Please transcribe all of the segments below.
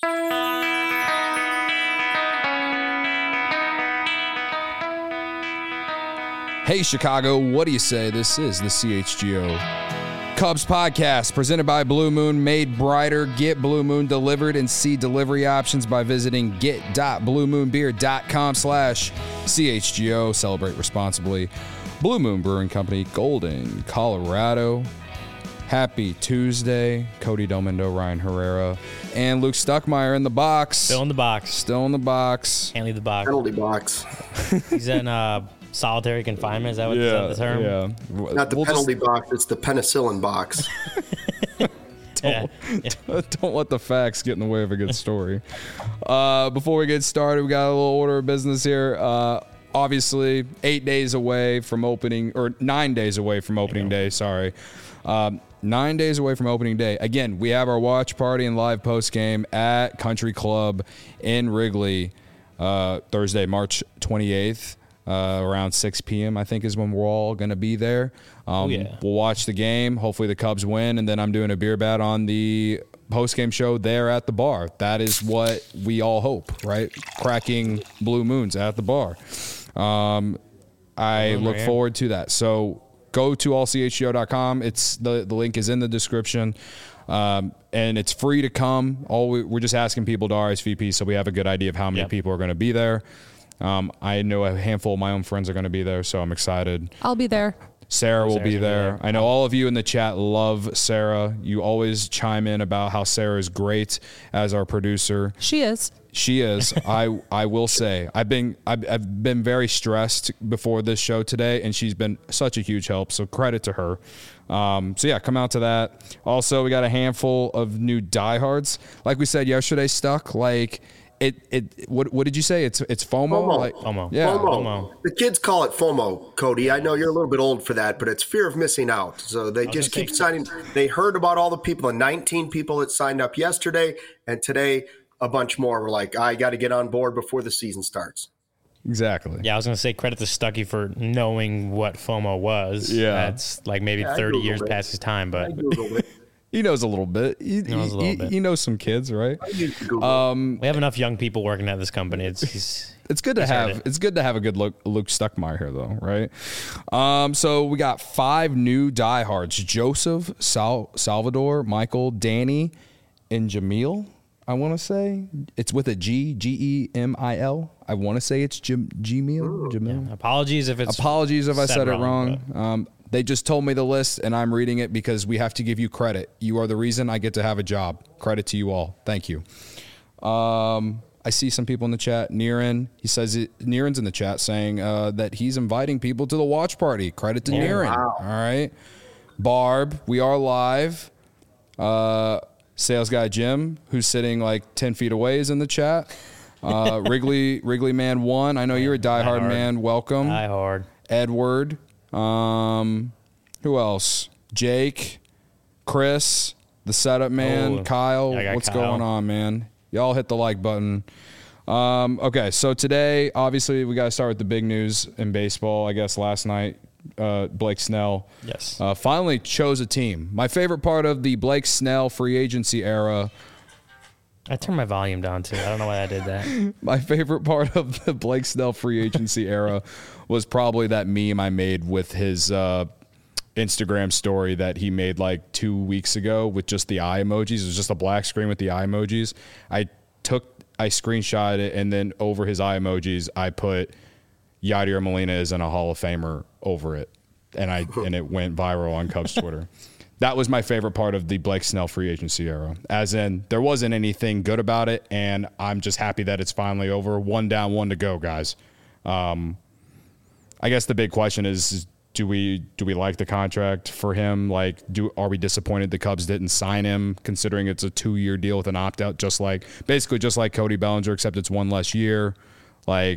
Hey, Chicago, what do you say? This is the CHGO Cubs podcast presented by Blue Moon, made brighter. Get Blue Moon delivered and see delivery options by visiting get.bluemoonbeer.com/CHGO. Celebrate responsibly. Blue Moon Brewing Company, Golden, Colorado. Happy Tuesday. Cody Delmendo, Ryan Herrera, and Luke Stuckmeyer in the box. Still in the box. Still in the box. Can't leave the box. Penalty box. He's in solitary confinement. Is that what is that the term? Yeah. Not the penalty box, it's the penicillin box. Yeah. Don't let the facts get in the way of a good story. Before we get started, we got a little order of business here. Obviously, 8 days away from opening, or 9 days away from opening day, sorry. 9 days away from opening day. Again, we have our watch party and live post game at Country Club in Wrigley Thursday, March 28th. Around 6 p.m., I think, is when we're all going to be there. We'll watch the game. Hopefully the Cubs win, and then I'm doing a beer bat on the post-game show there at the bar. That is what we all hope, right? Cracking blue moons at the bar. I look forward to that. So go to allchgo.com. It's the link is in the description. And it's free to come. We're just asking people to RSVP so we have a good idea of how many people are going to be there. I know a handful of my own friends are going to be there, so I'm excited. I'll be there. Sarah will be there. I know all of you in the chat love Sarah. You always chime in about how Sarah is great as our producer. She is. She is. I will say I've been very stressed before this show today, and she's been such a huge help. So credit to her. So yeah, come out to that. Also, we got a handful of new diehards. Like we said yesterday, Stuck. Like what did you say? It's FOMO. FOMO. Like, FOMO. Yeah. FOMO. The kids call it FOMO, Cody. I know you're a little bit old for that, but it's fear of missing out. So they just keep signing. They heard about all the people, the 19 people that signed up yesterday, and today a bunch more were like, I got to get on board before the season starts. Exactly. Yeah, I was going to say credit to Stuckey for knowing what FOMO was. Yeah. That's like maybe 30 years past his time, but He knows a little bit. He knows some kids, right? we have enough young people working at this company. It's good to have a good Luke Stuckmeyer here, though, right? So we got 5 new diehards: Joseph, Salvador, Michael, Danny, and Jamil. I want to say it's with a Gemil. I want to say it's Jamil. Yeah. Apologies if I said it wrong. They just told me the list, and I'm reading it because we have to give you credit. You are the reason I get to have a job. Credit to you all. Thank you. I see some people in the chat. Niren's in the chat saying that he's inviting people to the watch party. Credit to Niren. Wow. All right. Barb, we are live. Sales guy Jim, who's sitting like 10 feet away, is in the chat. Wrigley Man 1. I know you're a diehard man. Welcome. Diehard. Edward. Who else? Jake, Chris, the setup man, Kyle. What's going on, man? Y'all hit the like button. Okay, so today, obviously, we got to start with the big news in baseball. I guess last night, Blake Snell finally chose a team. My favorite part of the Blake Snell free agency era. I turned my volume down, too. I don't know why I did that. My favorite part of the Blake Snell free agency era was probably that meme I made with his Instagram story that he made like 2 weeks ago with just the eye emojis. It was just a black screen with the eye emojis. I screenshot it, and then over his eye emojis, I put Yadier Molina isn't a Hall of Famer over it. And it went viral on Cubs Twitter. That was my favorite part of the Blake Snell free agency era. As in, there wasn't anything good about it, and I'm just happy that it's finally over. 1 down, 1 to go, guys. I guess the big question is do we like the contract for him? Like, are we disappointed the Cubs didn't sign him, considering it's a 2-year deal with an opt-out, just like Cody Bellinger, except it's 1 less year. Like,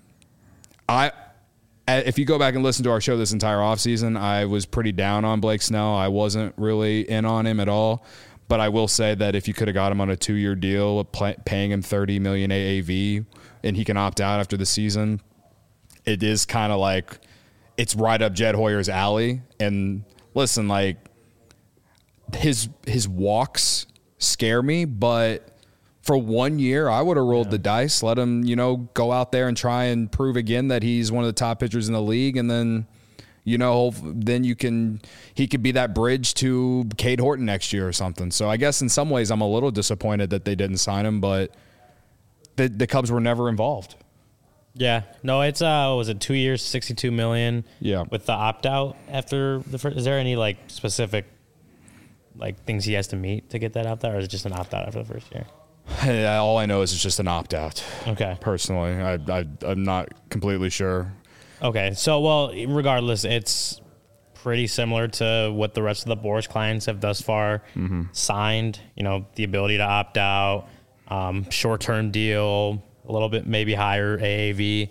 if you go back and listen to our show this entire offseason, I was pretty down on Blake Snell. I wasn't really in on him at all. But I will say that if you could have got him on a 2-year deal, paying him $30 million AAV, and he can opt out after the season, it is kind of like it's right up Jed Hoyer's alley. And listen, like his walks scare me, but For 1 year, I would have rolled the dice, let him, go out there and try and prove again that he's one of the top pitchers in the league. And then, then he could be that bridge to Cade Horton next year or something. So I guess in some ways I'm a little disappointed that they didn't sign him, but the Cubs were never involved. Yeah. No, it's, was it 2 years, $62 million? Yeah. With the opt-out after the first, is there any specific things he has to meet to get that opt-out, or is it just an opt-out after the first year? All I know is it's just an opt-out. Okay. Personally, I'm not completely sure. Okay. So, well, regardless, it's pretty similar to what the rest of the Boras clients have thus far signed. The ability to opt out, short-term deal, a little bit maybe higher AAV.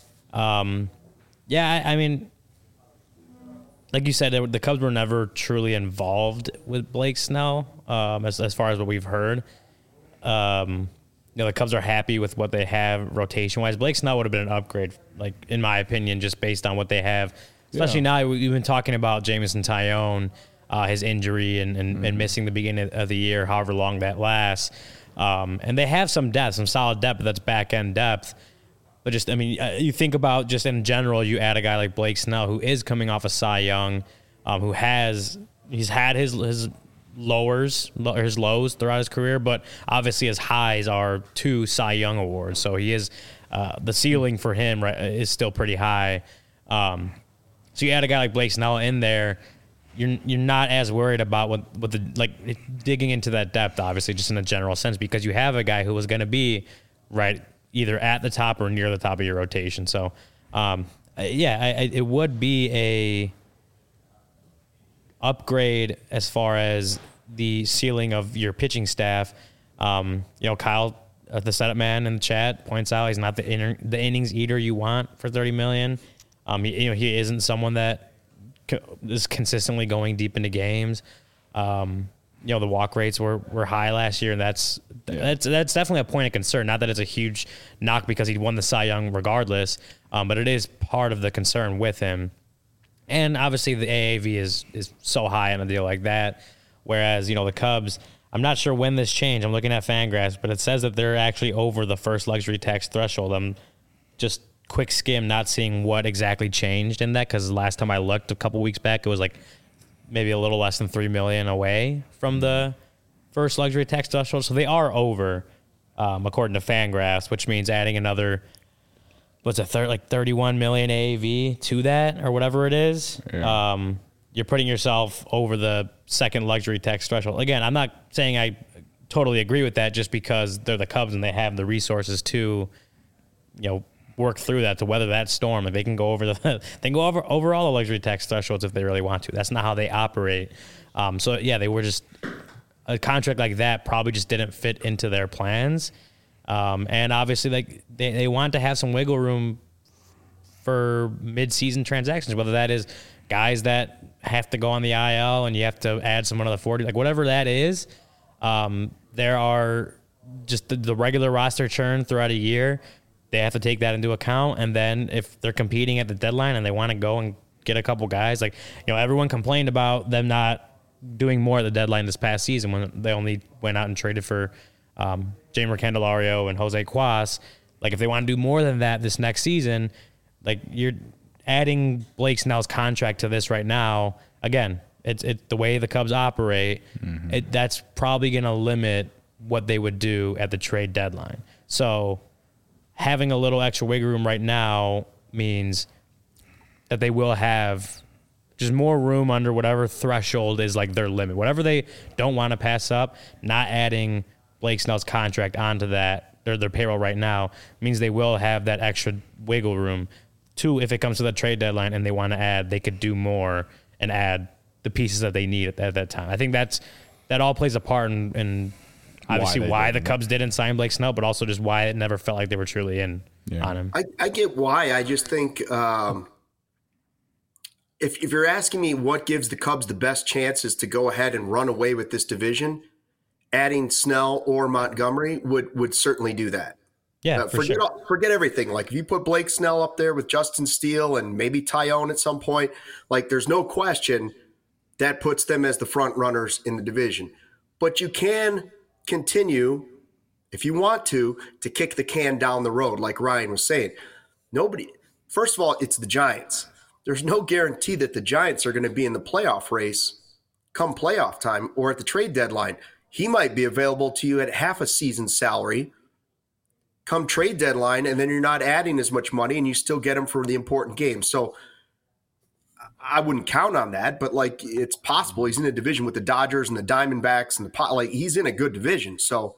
I mean, like you said, the Cubs were never truly involved with Blake Snell, as far as what we've heard. The Cubs are happy with what they have rotation-wise. Blake Snell would have been an upgrade, in my opinion, just based on what they have. Especially now, we've been talking about Jameson Taillon, his injury and missing the beginning of the year, however long that lasts. And they have some depth, some solid depth, but that's back-end depth. But you think about just in general, you add a guy like Blake Snell, who is coming off a Cy Young, he's had his lows throughout his career, but obviously his highs are 2 Cy Young awards. So he is the ceiling for him is still pretty high. So you add a guy like Blake Snell in there, you're not as worried about what the digging into that depth, obviously, just in a general sense, because you have a guy who was going to be either at the top or near the top of your rotation. So it would be a upgrade as far as the ceiling of your pitching staff. Kyle, the setup man in the chat, points out he's not the innings eater you want for $30 million. He isn't someone that is consistently going deep into games. The walk rates were high last year, and that's definitely a point of concern. Not that it's a huge knock because he won the Cy Young regardless, but it is part of the concern with him. And obviously the AAV is so high on a deal like that. Whereas, the Cubs, I'm not sure when this changed. I'm looking at Fangraphs, but it says that they're actually over the first luxury tax threshold. I'm just quick skim, not seeing what exactly changed in that, because last time I looked a couple weeks back, it was maybe a little less than $3 million away from the first luxury tax threshold. So they are over, according to Fangraphs, which means adding another, 31 million AAV to that or whatever it is. Yeah. You're putting yourself over the second luxury tax threshold. Again, I'm not saying I totally agree with that just because they're the Cubs and they have the resources to, work through that, to weather that storm. They can go over over all the luxury tax thresholds if they really want to. That's not how they operate. They were just, a contract like that probably just didn't fit into their plans. And obviously, they want to have some wiggle room for mid-season transactions, whether that is guys that have to go on the IL and you have to add someone to the 40, whatever that is. There are just the regular roster churn throughout a year. They have to take that into account. And then if they're competing at the deadline and they want to go and get a couple guys, everyone complained about them not doing more at the deadline this past season when they only went out and traded for Jeimer Candelario and Jose Cuas. If they want to do more than that this next season, you're adding Blake Snell's contract to this right now. Again, it's the way the Cubs operate. Mm-hmm. That's probably going to limit what they would do at the trade deadline. So having a little extra wiggle room right now means that they will have just more room under whatever threshold is their limit. Whatever they don't want to pass up, not adding Blake Snell's contract onto that, their payroll right now, means they will have that extra wiggle room to, if it comes to the trade deadline and they want to add, they could do more and add the pieces that they need at that time. I think that all plays a part in obviously why the Cubs didn't sign Blake Snell, but also just why it never felt like they were truly in on him. I get why. I just think if you're asking me what gives the Cubs the best chances to go ahead and run away with this division, adding Snell or Montgomery would certainly do that. Yeah, forget everything. If you put Blake Snell up there with Justin Steele and maybe Taillon at some point, there's no question that puts them as the front runners in the division. But you can continue, if you want to kick the can down the road, like Ryan was saying, first of all, it's the Giants. There's no guarantee that the Giants are going to be in the playoff race come playoff time or at the trade deadline. He might be available to you at half a season salary come trade deadline, and then you're not adding as much money and you still get him for the important games. So I wouldn't count on that, but like it's possible. He's in a division with the Dodgers and the Diamondbacks and he's in a good division. So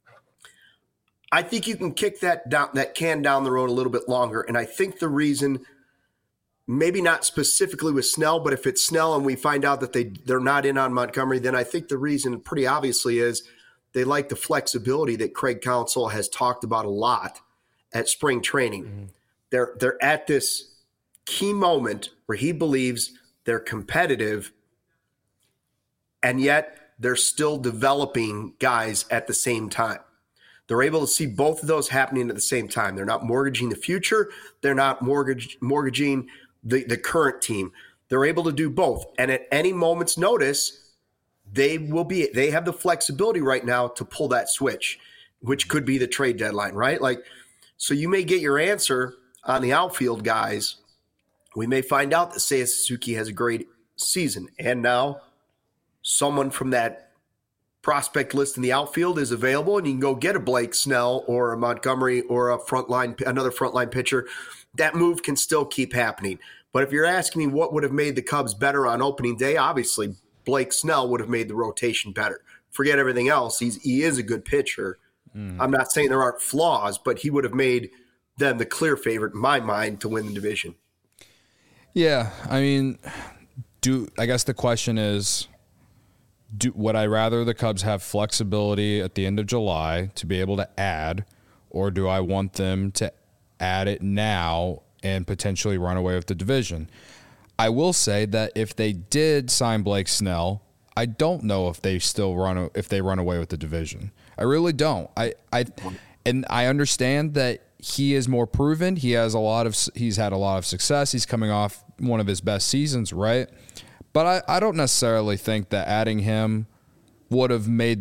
I think you can kick that can down the road a little bit longer. And I think the reason, maybe not specifically with Snell, but if it's Snell and we find out that they're not in on Montgomery, then I think the reason pretty obviously is they like the flexibility that Craig Counsell has talked about a lot at spring training. Mm-hmm. They're at this key moment where he believes they're competitive, and yet they're still developing guys at the same time. They're able to see both of those happening at the same time. They're not mortgaging the future. They're not mortgaging the current team. They're able to do both. And at any moment's notice, they have the flexibility right now to pull that switch, which could be the trade deadline, right? So you may get your answer on the outfield guys. We may find out that Seiya Suzuki has a great season, and now someone from that prospect list in the outfield is available, and you can go get a Blake Snell or a Montgomery or another frontline pitcher. That move can still keep happening. But if you're asking me what would have made the Cubs better on opening day, obviously Blake Snell would have made the rotation better. Forget everything else. He is a good pitcher. I'm not saying there aren't flaws, but he would have made them the clear favorite in my mind to win the division. Yeah, I mean, I guess the question is, would I rather the Cubs have flexibility at the end of July to be able to add, or do I want them to add it now and potentially run away with the division? I will say that if they did sign Blake Snell, I don't know if they run away with the division. I really don't. I understand that he is more proven. He's had a lot of success. He's coming off one of his best seasons, right? But I don't necessarily think that adding him would have led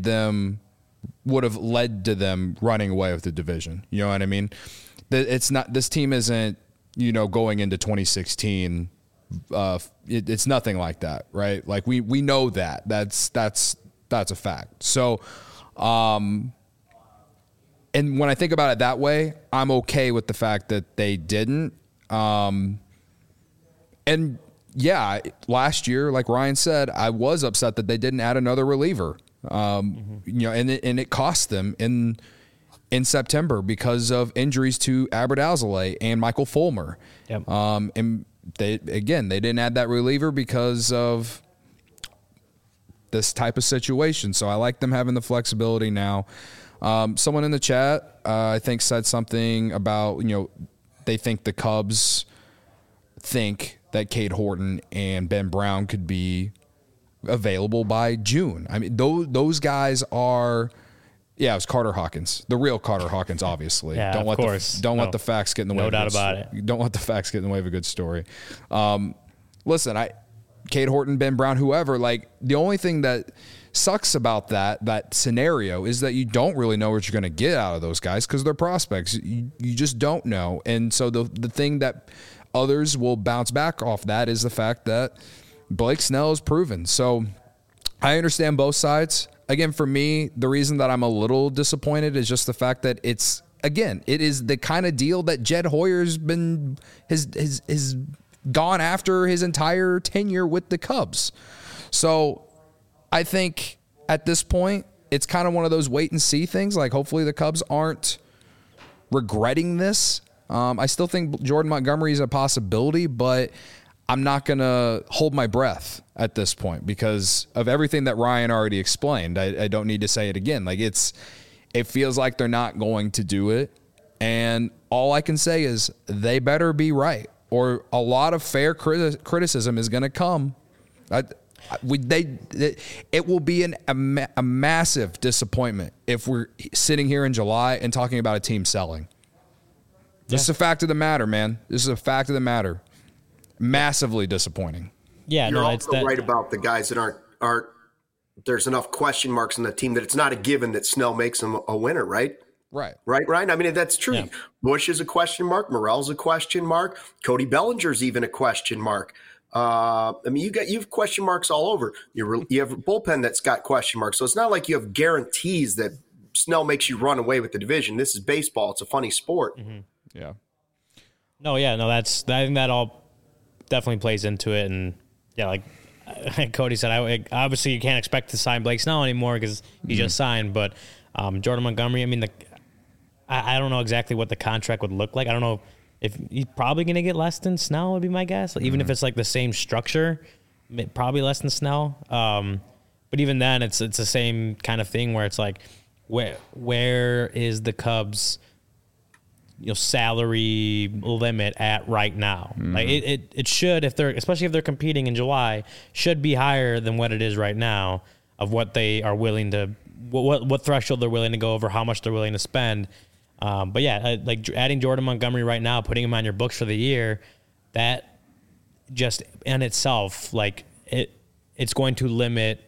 to them running away with the division. You know what I mean? This team isn't, going into 2016. It's nothing like that, right? Like we know that. That's a fact. So, and when I think about it that way, I'm okay with the fact that they didn't. And yeah, last year, like Ryan said, I was upset that they didn't add another reliever. And it cost them in September because of injuries to Albert Alzolay and Michael Fulmer. Yep. And they didn't add that reliever because of this type of situation. So I like them having the flexibility now. Someone in the chat, I think, said something about, they think the Cubs think that Cade Horton and Ben Brown could be available by June. I mean, those guys are, it was Carter Hawkins, the real Carter Hawkins, obviously. Yeah, don't let the facts get in the way. No doubt about it. Don't let the facts get in the way of a good story. Listen, Cade Horton, Ben Brown, whoever, like the only thing that sucks about that scenario is that you don't really know what you're going to get out of those guys because they're prospects. You just don't know. And so the thing that others will bounce back off that is the fact that Blake Snell is proven. So I understand both sides. Again, for me, the reason that I'm a little disappointed is just the fact that it is the kind of deal that Jed Hoyer's been has gone after his entire tenure with the Cubs. So I think at this point, it's kind of one of those wait and see things. Like hopefully the Cubs aren't regretting this. I still think Jordan Montgomery is a possibility, but I'm not going to hold my breath at this point because of everything that Ryan already explained. I don't need to say it again. Like it feels like they're not going to do it. And all I can say is they better be right, or a lot of fair criticism is going to come. It will be a massive disappointment if we're sitting here in July and talking about a team selling. This is a fact of the matter, man. This is a fact of the matter. Massively disappointing. Yeah, you're also right about the guys that aren't there's enough question marks in the team that it's not a given that Snell makes him a winner, right? Right. Right, Ryan? I mean, that's true. Yeah. Bush is a question mark. Morel's a question mark. Cody Bellinger's even a question mark. I mean, you have question marks all over. You have a bullpen that's got question marks. So it's not like you have guarantees that Snell makes you run away with the division. This is baseball. It's a funny sport. Mm-hmm. Yeah. No, I think that all definitely plays into it. And yeah, like Cody said, obviously you can't expect to sign Blake Snell anymore because he just signed. But Jordan Montgomery, I mean, I don't know exactly what the contract would look like. I don't know if he's probably going to get less than Snell would be my guess. Like, even if it's like the same structure, probably less than Snell. But even then, it's the same kind of thing where it's like, where is the Cubs' salary limit at right now? Like it should, especially if they're competing in July, should be higher than what it is right now of what they are willing to, what threshold they're willing to go over, how much they're willing to spend. But yeah, like adding Jordan Montgomery right now, putting him on your books for the year, that just in itself, like it's going to limit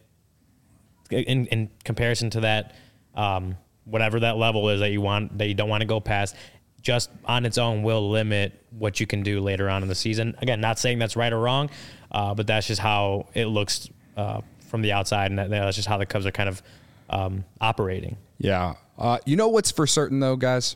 in comparison to that, whatever that level is that you don't want to go past. Just on its own will limit what you can do later on in the season. Again, not saying that's right or wrong, but that's just how it looks from the outside, and that's just how the Cubs are kind of operating. Yeah. You know what's for certain, though, guys?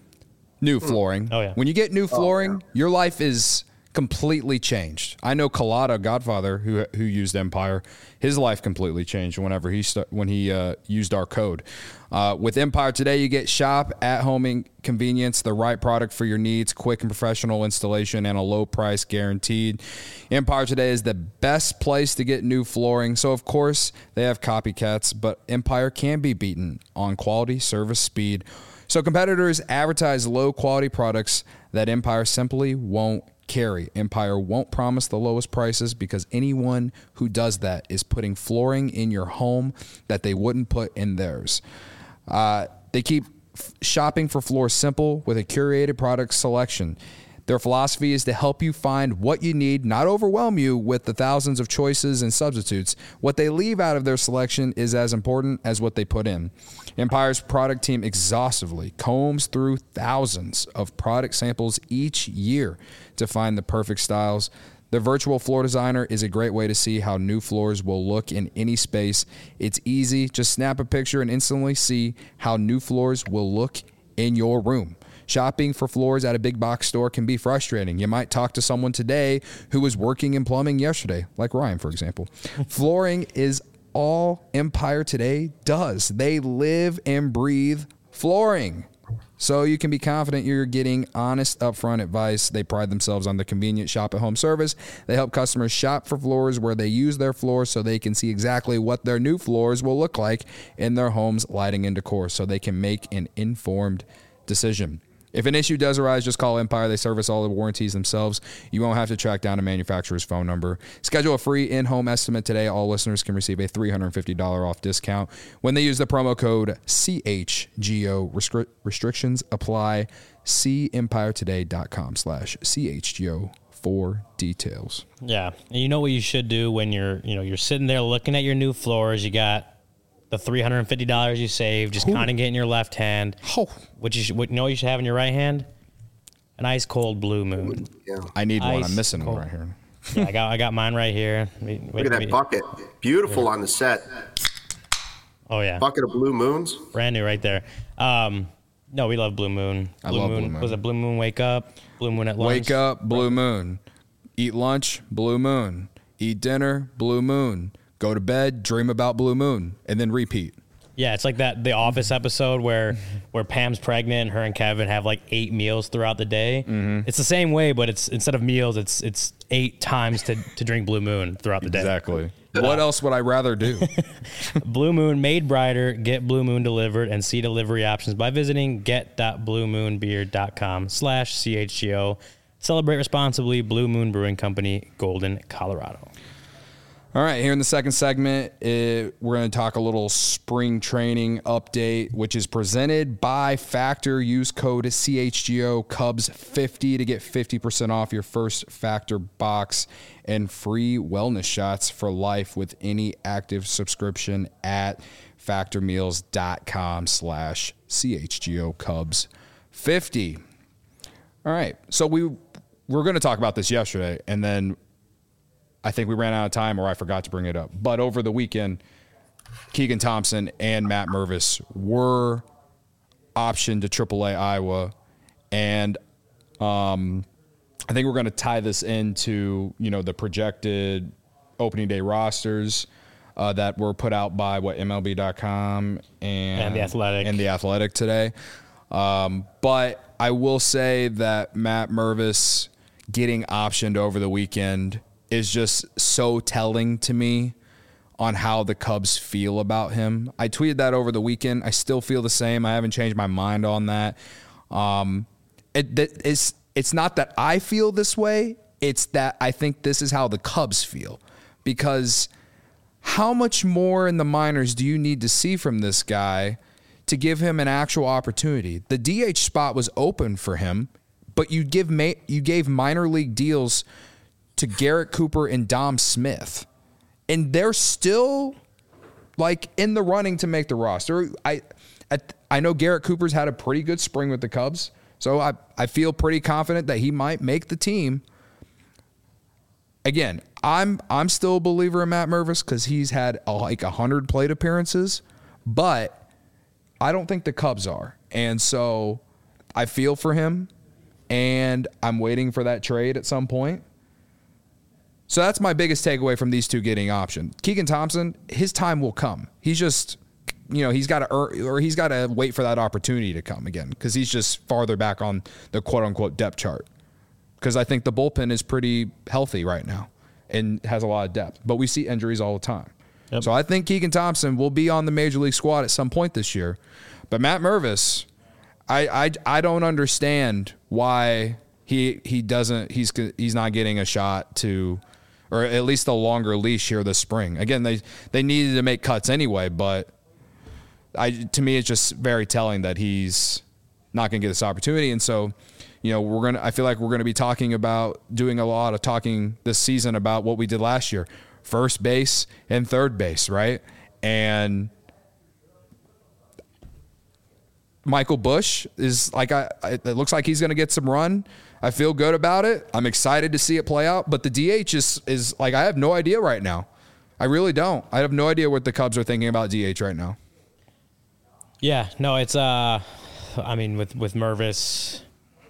New flooring. Oh, yeah. When you get new flooring, your life is completely changed. I know Collada, Godfather, who used Empire, his life completely changed whenever when he used our code. With Empire today, you get shop, at-home convenience, the right product for your needs, quick and professional installation, and a low price guaranteed. Empire today is the best place to get new flooring. So, of course, they have copycats, but Empire can be beaten on quality, service, speed. So competitors advertise low-quality products that Empire simply won't carry. Empire won't promise the lowest prices because anyone who does that is putting flooring in your home that they wouldn't put in theirs. They keep shopping for floors simple with a curated product selection. Their philosophy is to help you find what you need, not overwhelm you with the thousands of choices and substitutes. What they leave out of their selection is as important as what they put in. Empire's product team exhaustively combs through thousands of product samples each year to find the perfect styles. The virtual floor designer is a great way to see how new floors will look in any space. It's easy. Just snap a picture and instantly see how new floors will look in your room. Shopping for floors at a big box store can be frustrating. You might talk to someone today who was working in plumbing yesterday, like Ryan, for example. Flooring is all Empire today does. They live and breathe flooring. So you can be confident you're getting honest, upfront advice. They pride themselves on the convenient shop-at-home service. They help customers shop for floors where they use their floors so they can see exactly what their new floors will look like in their homes, lighting, and decor, so they can make an informed decision. If an issue does arise, just call Empire. They service all the warranties themselves. You won't have to track down a manufacturer's phone number. Schedule a free in-home estimate today. All listeners can receive a $350 off discount when they use the promo code CHGO. Restrictions apply. See EmpireToday.com/CHGO for details. Yeah. And you know what you should do when you're sitting there looking at your new floors. You got the $350 you saved, just counting it in your left hand. Oh. What you should have in your right hand? An ice cold Blue Moon. Yeah. I need one. I'm Ice missing cold. one right here. Yeah, I got mine right here. Look at that bucket. Beautiful on the set. Oh yeah, Bucket of Blue Moons. brand new right there. No, we love Blue Moon. I love Blue Moon. Was it Blue Moon Wake Up? Blue Moon at lunch? Wake up, Blue Moon. Eat lunch, Blue Moon. Eat dinner, Blue Moon. Go to bed, dream about Blue Moon, and then repeat. Yeah, it's like the Office episode where Pam's pregnant and her and Kevin have like 8 meals throughout the day. Mm-hmm. It's the same way, but it's instead of meals, it's 8 times to drink Blue Moon throughout the day. Exactly. What else would I rather do? Blue Moon made brighter. Get Blue Moon delivered and see delivery options by visiting get.bluemoonbeer.com/CHGO. Celebrate responsibly. Blue Moon Brewing Company, Golden, Colorado. All right, here in the second segment, we're going to talk a little spring training update, which is presented by Factor. Use code CHGO Cubs 50 to get 50% off your first Factor box and free wellness shots for life with any active subscription at factormeals.com/CHGO Cubs 50. All right, so we were going to talk about this yesterday, and then I think we ran out of time, or I forgot to bring it up. But over the weekend, Keegan Thompson and Matt Mervis were optioned to AAA Iowa, and I think we're going to tie this into the projected opening day rosters that were put out by MLB.com and The Athletic today. But I will say that Matt Mervis getting optioned over the weekend is just so telling to me on how the Cubs feel about him. I tweeted that over the weekend. I still feel the same. I haven't changed my mind on that. It's not that I feel this way. It's that I think this is how the Cubs feel. Because how much more in the minors do you need to see from this guy to give him an actual opportunity? The DH spot was open for him, but you gave minor league deals to Garrett Cooper and Dom Smith, and they're still in the running to make the roster. I know Garrett Cooper's had a pretty good spring with the Cubs, so I feel pretty confident that he might make the team. Again, I'm still a believer in Matt Mervis because he's had 100 plate appearances, but I don't think the Cubs are, and so I feel for him, and I'm waiting for that trade at some point. So that's my biggest takeaway from these two getting optioned. Keegan Thompson, his time will come. He's just, he's got to earn, or he's got to wait for that opportunity to come again because he's just farther back on the quote-unquote depth chart. Because I think the bullpen is pretty healthy right now and has a lot of depth. But we see injuries all the time. Yep. So I think Keegan Thompson will be on the Major League squad at some point this year. But Matt Mervis, I don't understand why he's not getting a shot to, or at least a longer leash here this spring. Again, they needed to make cuts anyway, but to me it's just very telling that he's not going to get this opportunity. And so, I feel like we're going to be doing a lot of talking this season about what we did last year, first base and third base, right? And Michael Busch is it looks like he's going to get some run. I feel good about it. I'm excited to see it play out. But the DH is I have no idea right now. I really don't. I have no idea what the Cubs are thinking about DH right now. Yeah, no, it's with Mervis,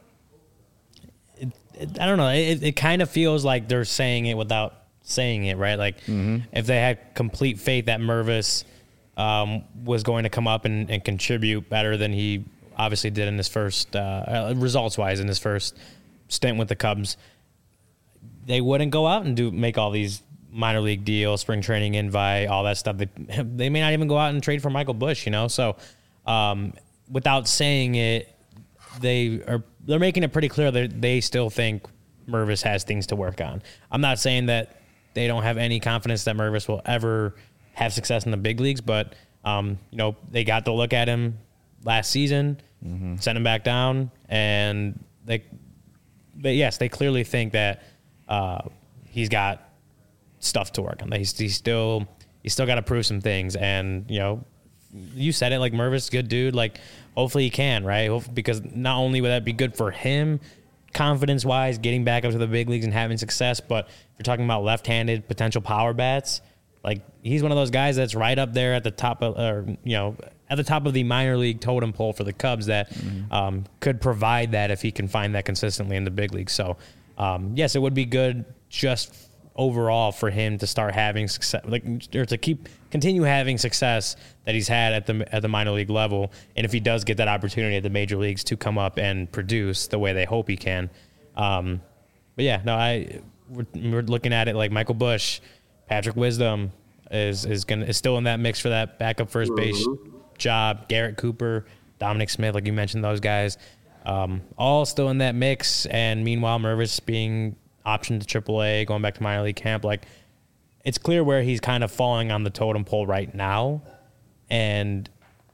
I don't know. It kind of feels like they're saying it without saying it, right? If they had complete faith that Mervis was going to come up and contribute better than he obviously did in his first results-wise in his first stint with the Cubs, they wouldn't go out and make all these minor league deals, spring training invite, all that stuff. They may not even go out and trade for Michael Busch, So without saying it, they're making it pretty clear that they still think Mervis has things to work on. I'm not saying that they don't have any confidence that Mervis will ever have success in the big leagues, but they got to look at him last season, sent him back down, and they clearly think that he's got stuff to work on. He's still got to prove some things, and you said it, Mervis, good dude. Hopefully he can, right? Because not only would that be good for him, confidence-wise, getting back up to the big leagues and having success, but if you're talking about left-handed potential power bats, he's one of those guys that's right up there at the top of, at the top of the minor league totem pole for the Cubs that could provide that if he can find that consistently in the big leagues. So, yes, it would be good just overall for him to start having success, or to continue having success that he's had at the minor league level. And if he does get that opportunity at the major leagues to come up and produce the way they hope he can. But yeah, no, we're looking at it like Michael Busch, Patrick Wisdom is still in that mix for that backup first base job. Garrett Cooper, Dominic Smith, like you mentioned, those guys, all still in that mix. And meanwhile, Mervis being optioned to AAA, going back to minor league camp. it's clear where he's kind of falling on the totem pole right now. And,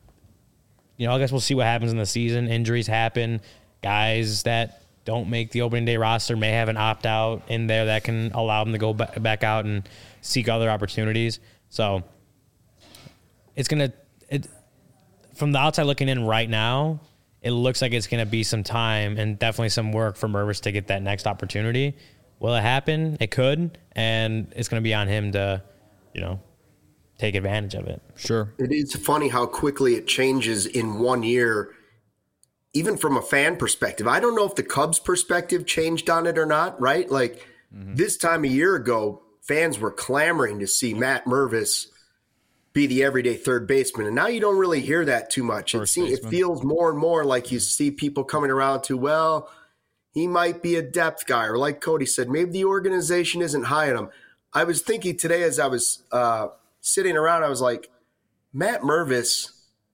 I guess we'll see what happens in the season. Injuries happen. Guys that don't make the opening day roster may have an opt-out in there that can allow them to go back out and seek other opportunities. So it's going to – from the outside looking in right now, it looks like it's going to be some time and definitely some work for Mervis to get that next opportunity. Will it happen? It could, and it's going to be on him to, take advantage of it. Sure. It is funny how quickly it changes in 1 year, even from a fan perspective. I don't know if the Cubs' perspective changed on it or not, right? Like this time a year ago, fans were clamoring to see Matt Mervis be the everyday third baseman. And now you don't really hear that too much. It feels more and more like you see people coming around to, well, he might be a depth guy. Or like Cody said, maybe the organization isn't high on him. I was thinking today as I was sitting around, I was like, Matt Mervis,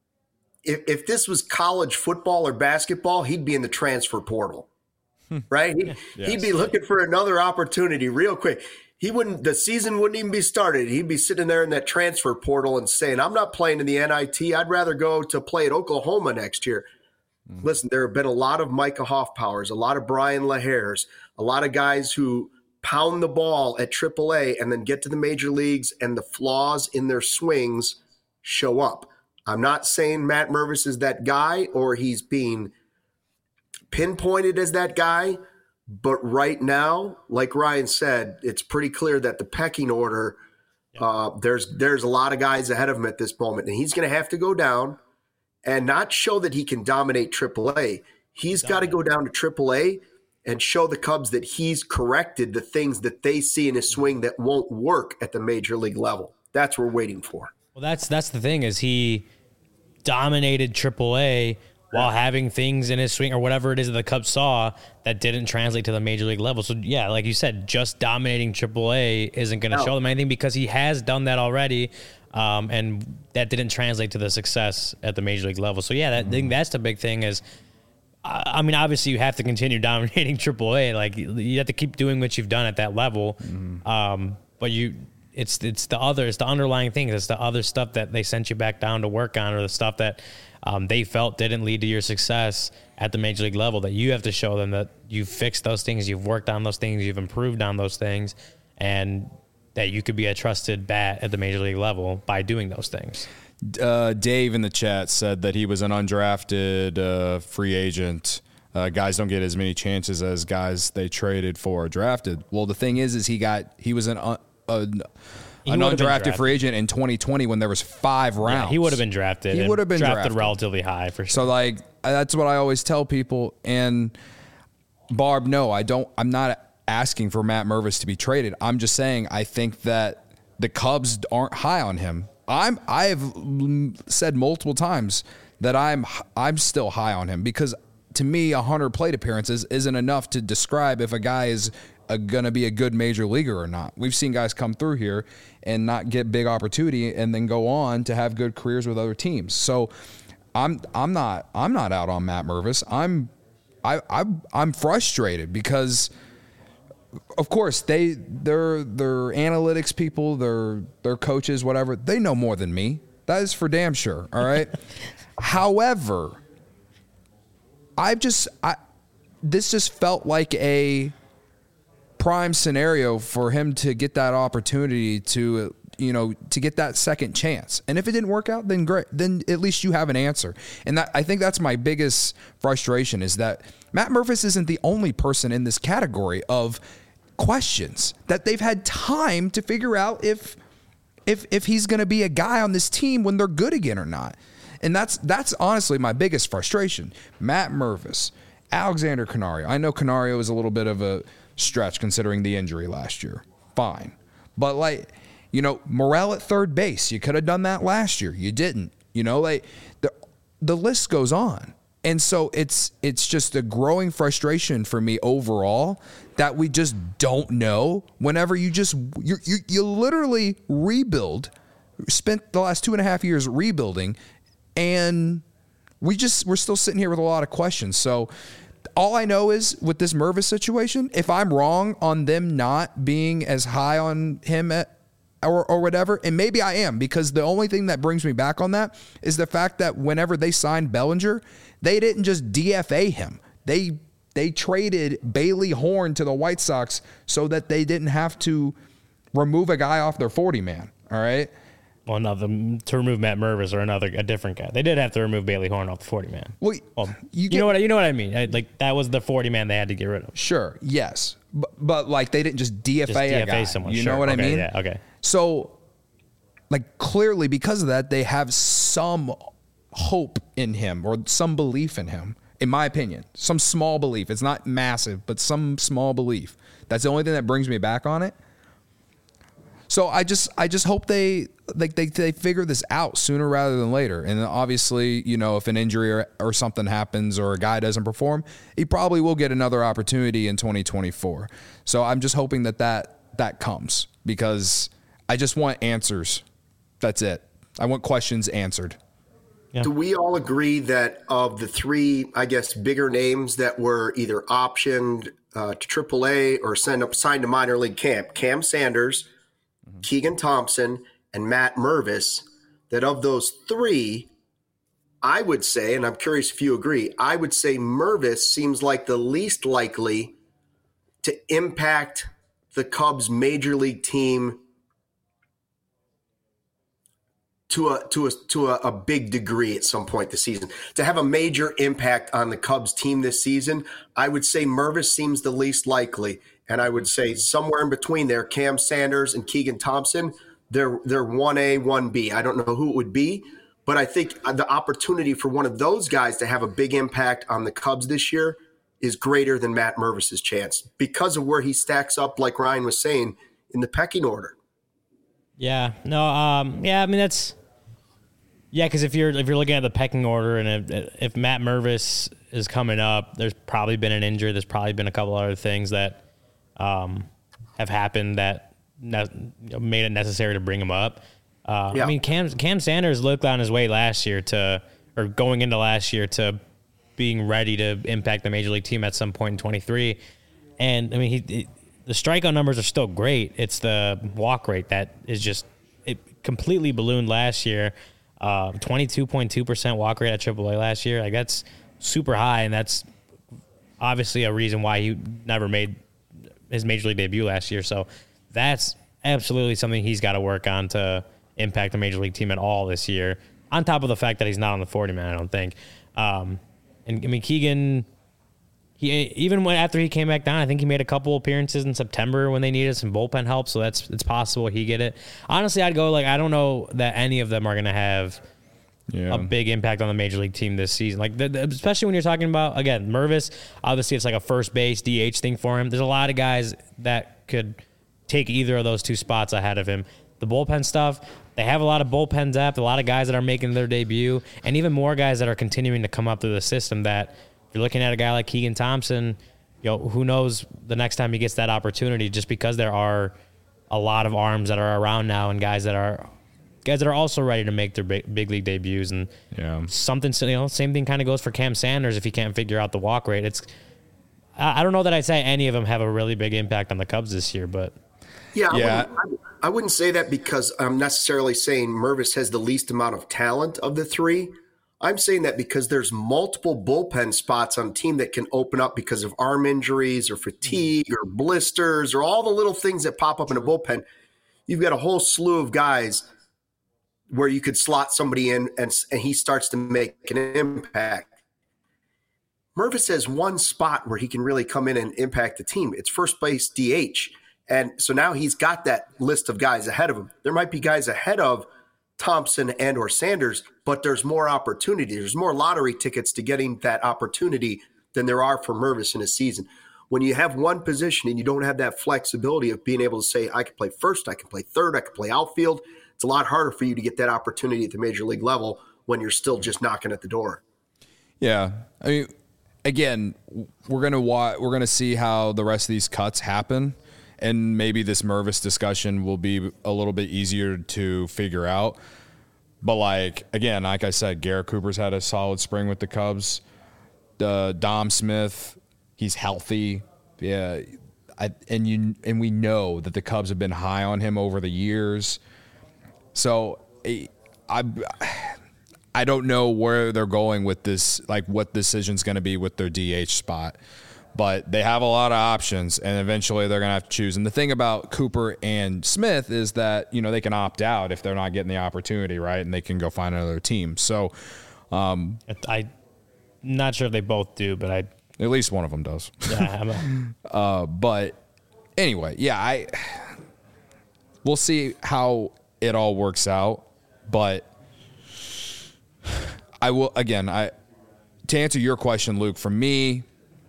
if this was college football or basketball, he'd be in the transfer portal, right? He'd be looking for another opportunity real quick. The season wouldn't even be started. He'd be sitting there in that transfer portal and saying, I'm not playing in the NIT. I'd rather go to play at Oklahoma next year. Listen, there have been a lot of Micah Hoffpowers, a lot of Brian LaHares, a lot of guys who pound the ball at AAA and then get to the major leagues and the flaws in their swings show up. I'm not saying Matt Mervis is that guy or he's being pinpointed as that guy, but right now, like Ryan said, it's pretty clear that the pecking order, there's a lot of guys ahead of him at this moment, and he's going to have to go down and not show that he can dominate AAA. He's got to go down to AAA and show the Cubs that he's corrected the things that they see in his swing that won't work at the major league level. That's what we're waiting for. Well, that's the thing is he dominated AAA while having things in his swing or whatever it is that the Cubs saw that didn't translate to the major league level. So, yeah, like you said, just dominating AAA isn't going to show them anything because he has done that already, and that didn't translate to the success at the major league level. So, yeah, I think that's the big thing is, I mean, obviously you have to continue dominating AAA. Like, you have to keep doing what you've done at that level. But it's the underlying things. It's the other stuff that they sent you back down to work on, or the stuff that they felt didn't lead to your success at the major league level, that you have to show them that you've fixed those things, you've worked on those things, you've improved on those things, and that you could be a trusted bat at the major league level by doing those things. Dave in the chat said that he was an undrafted free agent. Guys don't get as many chances as guys they traded for or drafted. Well, the thing is he was an undrafted free agent in 2020 when there was 5 rounds. Yeah, he would have been drafted. He would have been drafted relatively high for sure. So, like, that's what I always tell people. And Barb, no, I'm not asking for Matt Mervis to be traded. I'm just saying I think that the Cubs aren't high on him. I've said multiple times that I'm still high on him because to me 100 plate appearances isn't enough to describe if a guy is going to be a good major leaguer or not. We've seen guys come through here and not get big opportunity and then go on to have good careers with other teams. So I'm not out on Matt Mervis. I'm frustrated because of course they're analytics people, they're coaches, whatever. They know more than me. That is for damn sure. All right. However, this just felt like a prime scenario for him to get that opportunity to get that second chance. And if it didn't work out, then great. Then at least you have an answer. And I think that's my biggest frustration is that Matt Mervis isn't the only person in this category of questions that they've had time to figure out if he's going to be a guy on this team when they're good again or not. And that's honestly my biggest frustration. Matt Mervis, Alexander Canario. I know Canario is a little bit of a stretch considering the injury last year. Fine. But Morel at third base, you could have done that last year. You didn't. The list goes on. And so it's just a growing frustration for me overall that we just don't know whenever you literally rebuild, spent the last 2.5 years rebuilding, and we're still sitting here with a lot of questions. So all I know is with this Mervis situation, if I'm wrong on them not being as high on him or whatever, and maybe I am, because the only thing that brings me back on that is the fact that whenever they signed Bellinger, they didn't just DFA him. They traded Bailey Horn to the White Sox so that they didn't have to remove a guy off their 40-man, all right? Well, no, to remove Matt Mervis or a different guy. They did have to remove Bailey Horn off the 40-man. Well, you know what I mean? Like, that was the 40-man they had to get rid of. Sure, yes. But like, they didn't just DFA a guy. Someone. You know what I mean? Yeah, okay. So, like, clearly because of that, they have some hope in him or some belief in him, in my opinion. Some small belief. It's not massive, but some small belief. That's the only thing that brings me back on it. So I just hope they figure this out sooner rather than later. And obviously, you know, if an injury or something happens or a guy doesn't perform, he probably will get another opportunity in 2024. So I'm just hoping that comes, because I just want answers. That's it. I want questions answered. Yeah. Do we all agree that of the three, I guess, bigger names that were either optioned to AAA or signed to minor league camp, Cam Sanders, Keegan Thompson, and Matt Mervis, that of those three, I would say, and I'm curious if you agree, I would say Mervis seems like the least likely to impact the Cubs major league team to a big degree at some point this season. To have a major impact on the Cubs team this season, I would say Mervis seems the least likely. And I would say somewhere in between there, Cam Sanders and Keegan Thompson, they're 1A, 1B. I don't know who it would be, but I think the opportunity for one of those guys to have a big impact on the Cubs this year is greater than Matt Mervis's chance because of where he stacks up, like Ryan was saying, in the pecking order. Yeah. No. Yeah. I mean, because if you're looking at the pecking order, and if Matt Mervis is coming up, there's probably been an injury. There's probably been a couple other things that have happened that made it necessary to bring him up. I mean, Cam Sanders looked on his way going into last year to being ready to impact the major league team at some point in 23. And I mean, the strikeout numbers are still great. It's the walk rate that is it completely ballooned last year. 22.2% walk rate at AAA last year. Like, that's super high, and that's obviously a reason why he never made his major league debut last year. So that's absolutely something he's got to work on to impact the major league team at all this year, on top of the fact that he's not on the 40-man, I don't think. And I mean, Keegan, after he came back down, I think he made a couple appearances in September when they needed some bullpen help. So it's possible he get it. Honestly, I'd go, like, I don't know that any of them are going to have a big impact on the major league team this season. Like, especially when you're talking about, again, Mervis, obviously it's like a first base DH thing for him. There's a lot of guys that could take either of those two spots ahead of him. The bullpen stuff, they have a lot of bullpen depth, a lot of guys that are making their debut, and even more guys that are continuing to come up through the system that, if you're looking at a guy like Keegan Thompson, you know, who knows the next time he gets that opportunity, just because there are a lot of arms that are around now and guys that are also ready to make their big league debuts. And something, you know, same thing kind of goes for Cam Sanders if he can't figure out the walk rate. I don't know that I'd say any of them have a really big impact on the Cubs this year, but I wouldn't say that because I'm necessarily saying Mervis has the least amount of talent of the three. I'm saying that because there's multiple bullpen spots on a team that can open up because of arm injuries or fatigue or blisters or all the little things that pop up in a bullpen. You've got a whole slew of guys where you could slot somebody in and he starts to make an impact. Mervis has one spot where he can really come in and impact the team. It's first base DH. And so now he's got that list of guys ahead of him. There might be guys ahead of Thompson and or Sanders, but there's more opportunity. There's more lottery tickets to getting that opportunity than there are for Mervis in a season. When you have one position and you don't have that flexibility of being able to say, I can play first, I can play third, I can play outfield, it's a lot harder for you to get that opportunity at the major league level when you're still just knocking at the door. Yeah. I mean, again, we're gonna see how the rest of these cuts happen. And maybe this Mervis discussion will be a little bit easier to figure out. But, like I said, Garrett Cooper's had a solid spring with the Cubs. Dom Smith, he's healthy. Yeah, and we know that the Cubs have been high on him over the years. So I don't know where they're going with this, like what decision's going to be with their DH spot. But they have a lot of options, and eventually they're going to have to choose. And the thing about Cooper and Smith is that, they can opt out if they're not getting the opportunity, right? And they can go find another team. So I'm not sure if they both do, but at least one of them does. Yeah. But anyway, yeah, we'll see how it all works out. But I will, again, to answer your question, Luke, for me,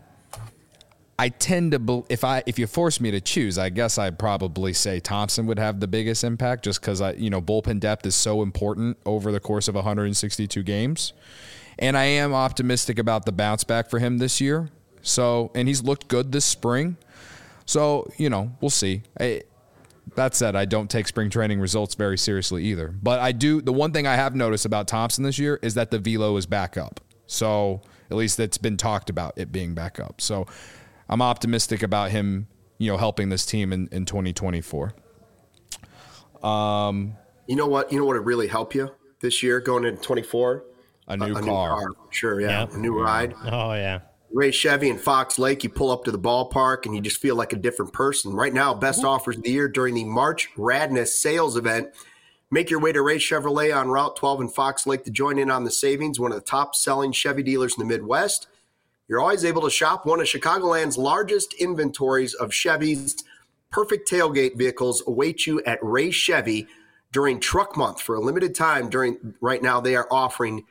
I tend to if you force me to choose, I guess I'd probably say Thompson would have the biggest impact, just because bullpen depth is so important over the course of 162 games, and I am optimistic about the bounce back for him this year. So, and he's looked good this spring. So, we'll see. That said, I don't take spring training results very seriously either. But I do. The one thing I have noticed about Thompson this year is that the velo is back up. So at least it's been talked about it being back up. So I'm optimistic about him, helping this team in 2024. You know what? You know what would really help you this year going into 24? A new car. Sure, yeah. Yep. A new ride. Oh, yeah. Ray Chevy in Fox Lake, you pull up to the ballpark and you just feel like a different person. Right now, best offers of the year during the March Radness sales event. Make your way to Ray Chevrolet on Route 12 in Fox Lake to join in on the savings, one of the top-selling Chevy dealers in the Midwest. You're always able to shop one of Chicagoland's largest inventories of Chevys. Perfect tailgate vehicles await you at Ray Chevy during Truck Month. For a limited time right now, they are offering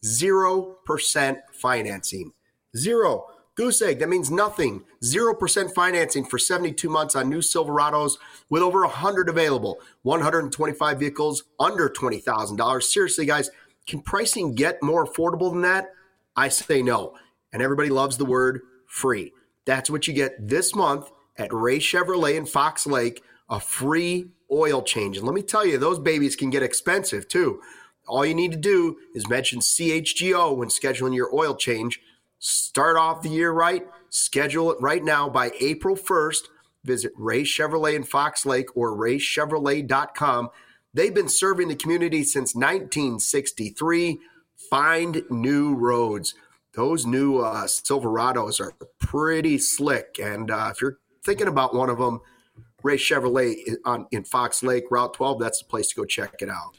0% financing. Zero. Goose egg, that means nothing. 0% financing for 72 months on new Silverados with over 100 available. 125 vehicles under $20,000. Seriously, guys, can pricing get more affordable than that? I say no. And everybody loves the word free. That's what you get this month at Ray Chevrolet in Fox Lake, a free oil change. And let me tell you, those babies can get expensive too. All you need to do is mention CHGO when scheduling your oil change. Start off the year right. Schedule it right now by April 1st. Visit Ray Chevrolet in Fox Lake or raychevrolet.com. They've been serving the community since 1963. Find new roads. Those new Silverados are pretty slick. And if you're thinking about one of them, Ray Chevrolet in Fox Lake, Route 12, that's the place to go check it out.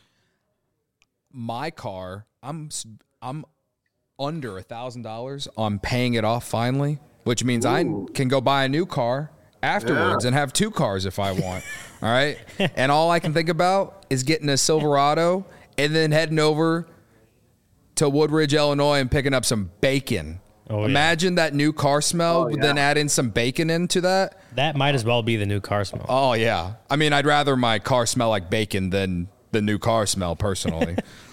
My car, I'm under $1,000 on paying it off finally, which means I can go buy a new car afterwards and have two cars if I want. All right. And all I can think about is getting a Silverado and then heading over to Woodridge, Illinois and picking up some bacon. Imagine that new car smell, then add in some bacon into that. That might as well be the new car smell. Oh, yeah. I mean, I'd rather my car smell like bacon than the new car smell personally.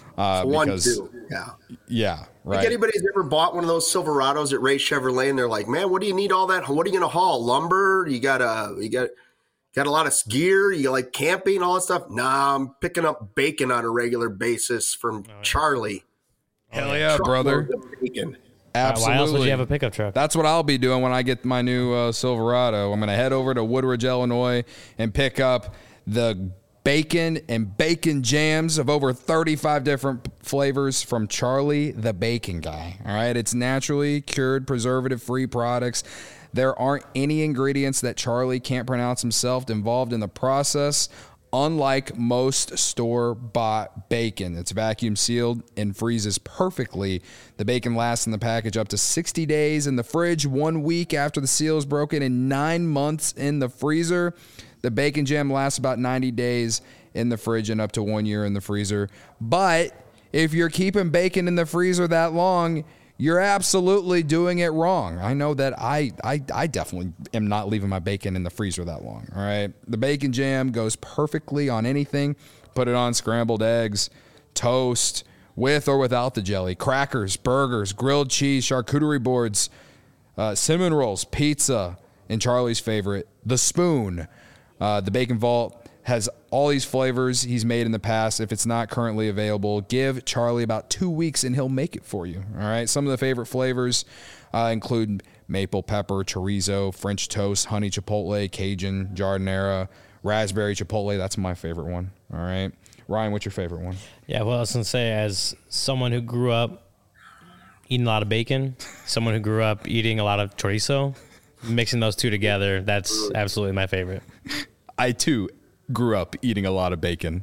Yeah, right. Like anybody's ever bought one of those Silverados at Ray Chevrolet and they're like, man, what do you need all that? What are you going to haul? Lumber? You got a lot of gear? You like camping, all that stuff? Nah, I'm picking up bacon on a regular basis from Charlie. Hell yeah, brother. Bacon. Absolutely. Why else would you have a pickup truck? That's what I'll be doing when I get my new Silverado. I'm going to head over to Woodridge, Illinois and pick up the bacon and bacon jams of over 35 different flavors from Charlie the Bacon Guy. All right. It's naturally cured, preservative-free products. There aren't any ingredients that Charlie can't pronounce himself involved in the process. Unlike most store-bought bacon, it's vacuum sealed and freezes perfectly. The bacon lasts in the package up to 60 days in the fridge, 1 week after the seal is broken, and 9 months in the freezer. The bacon jam lasts about 90 days in the fridge and up to 1 year in the freezer. But if you're keeping bacon in the freezer that long, you're absolutely doing it wrong. I know that I definitely am not leaving my bacon in the freezer that long. All right. The bacon jam goes perfectly on anything. Put it on scrambled eggs, toast, with or without the jelly, crackers, burgers, grilled cheese, charcuterie boards, cinnamon rolls, pizza, and Charlie's favorite, the spoon. The Bacon Vault has all these flavors he's made in the past. If it's not currently available, give Charlie about 2 weeks and he'll make it for you. All right. Some of the favorite flavors include maple pepper, chorizo, French toast, honey chipotle, Cajun, jardinera, raspberry chipotle. That's my favorite one. All right. Ryan, what's your favorite one? Yeah, well, I was going to say, as someone who grew up eating a lot of bacon, someone who grew up eating a lot of chorizo, mixing those two together, that's absolutely my favorite. I, too, grew up eating a lot of bacon.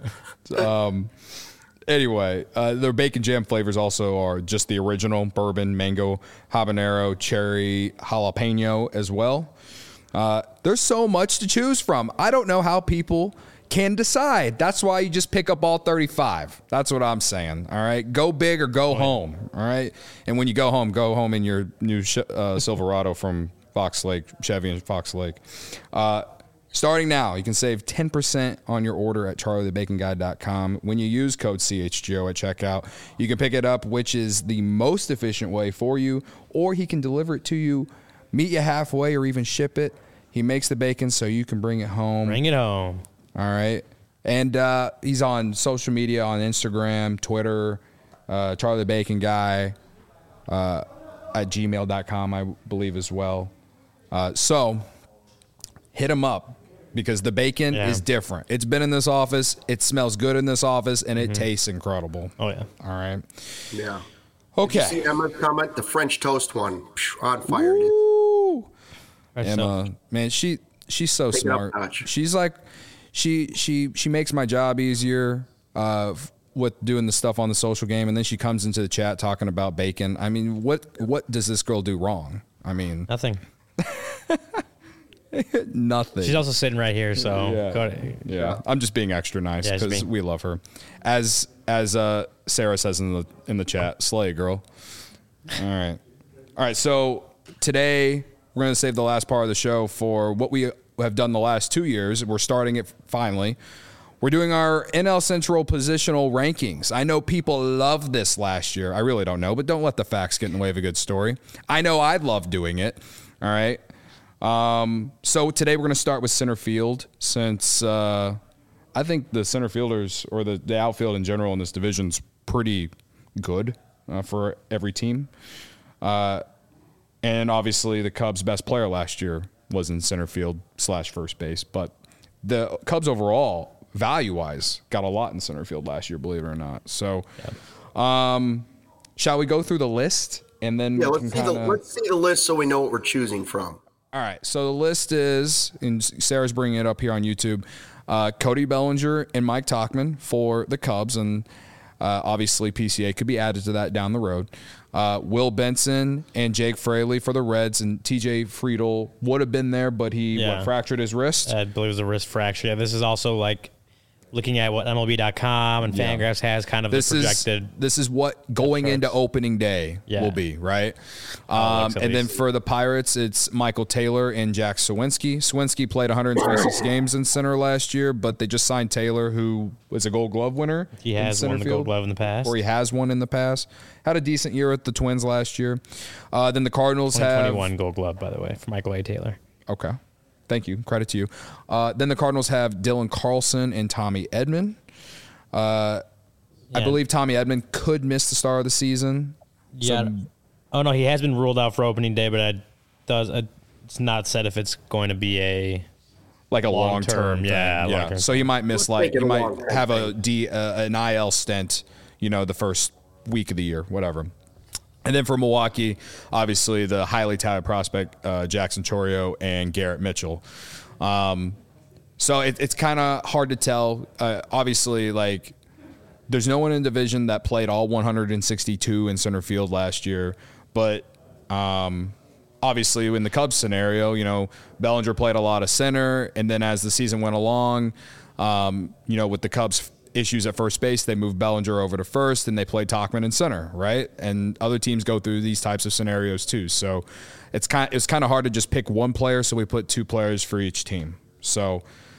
Anyway, their bacon jam flavors also are just the original bourbon, mango, habanero, cherry, jalapeno as well. There's so much to choose from. I don't know how people can decide. That's why you just pick up all 35. That's what I'm saying. All right. Go big or go home. All right. And when you go home in your new Silverado from Fox Lake, Chevy and Fox Lake. Starting now, you can save 10% on your order at charliethebaconguy.com. When you use code CHGO at checkout, you can pick it up, which is the most efficient way for you, or he can deliver it to you, meet you halfway, or even ship it. He makes the bacon so you can bring it home. Bring it home. All right. And he's on social media, on Instagram, Twitter, Charlie the Bacon Guy, at gmail.com, I believe, as well. So hit him up because the bacon is different. It's been in this office. It smells good in this office, and it tastes incredible. Oh, yeah. All right. Yeah. Okay. Did you see Emma's comment? The French toast one. On fire, dude. Woo! Right, Emma, man, she's so Take it up smart. a notch. She's like, she makes my job easier with doing the stuff on the social game, and then she comes into the chat talking about bacon. I mean, what does this girl do wrong? I mean, Nothing. nothing. She's also sitting right here, so Yeah. go ahead. Yeah, I'm just being extra nice Yeah, just because being- we love her. As Sarah says in the chat, slay, girl. All right. So today we're going to save the last part of the show for what we have done the last 2 years. We're starting it finally. We're doing our NL Central positional rankings. I know people loved this last year. I really don't know, but don't let the facts get in the way of a good story. I know I'd love doing it. All right. So today we're going to start with center field since I think the center fielders or the outfield in general in this division is pretty good for every team. And obviously the Cubs' best player last year was in center field / first base. But the Cubs overall, value-wise, got a lot in center field last year, believe it or not. So shall we go through the list? And then Yeah, we let's can see the list so we know what we're choosing from. All right, so the list is, and Sarah's bringing it up here on YouTube, Cody Bellinger and Mike Tauchman for the Cubs, and obviously PCA could be added to that down the road. Will Benson and Jake Fraley for the Reds, and TJ Friedl would have been there, but he fractured his wrist. I believe it was a wrist fracture. Yeah, this is also like looking at what MLB.com and Fangraphs has kind of the projected. This is what going into opening day will be, right? And then for the Pirates, it's Michael Taylor and Jack Sawinski. Sawinski played 126 games in center last year, but they just signed Taylor, who was a Gold Glove winner. He has won the Gold Glove in the past. Or he has one in the past. Had a decent year with the Twins last year. Then the Cardinals have 2021 Gold Glove, by the way, for Michael A. Taylor. Okay. Thank you. Credit to you. Then the Cardinals have Dylan Carlson and Tommy Edman. I believe Tommy Edman could miss the start of the season. Yeah. Oh, no, he has been ruled out for opening day, but it's not said if it's going to be a long-term thing. long-term. So you might miss, Let's make it you a might long-term have an IL stint, the first week of the year, whatever. And then for Milwaukee, obviously the highly touted prospect, Jackson Chourio and Garrett Mitchell. So it's kind of hard to tell. Obviously, there's no one in the division that played all 162 in center field last year. But obviously, in the Cubs scenario, Bellinger played a lot of center. And then as the season went along, with the Cubs' issues at first base, they moved Bellinger over to first, and they played Tauchman in center, right? And other teams go through these types of scenarios too. So it's kind of hard to just pick one player. So we put two players for each team. So,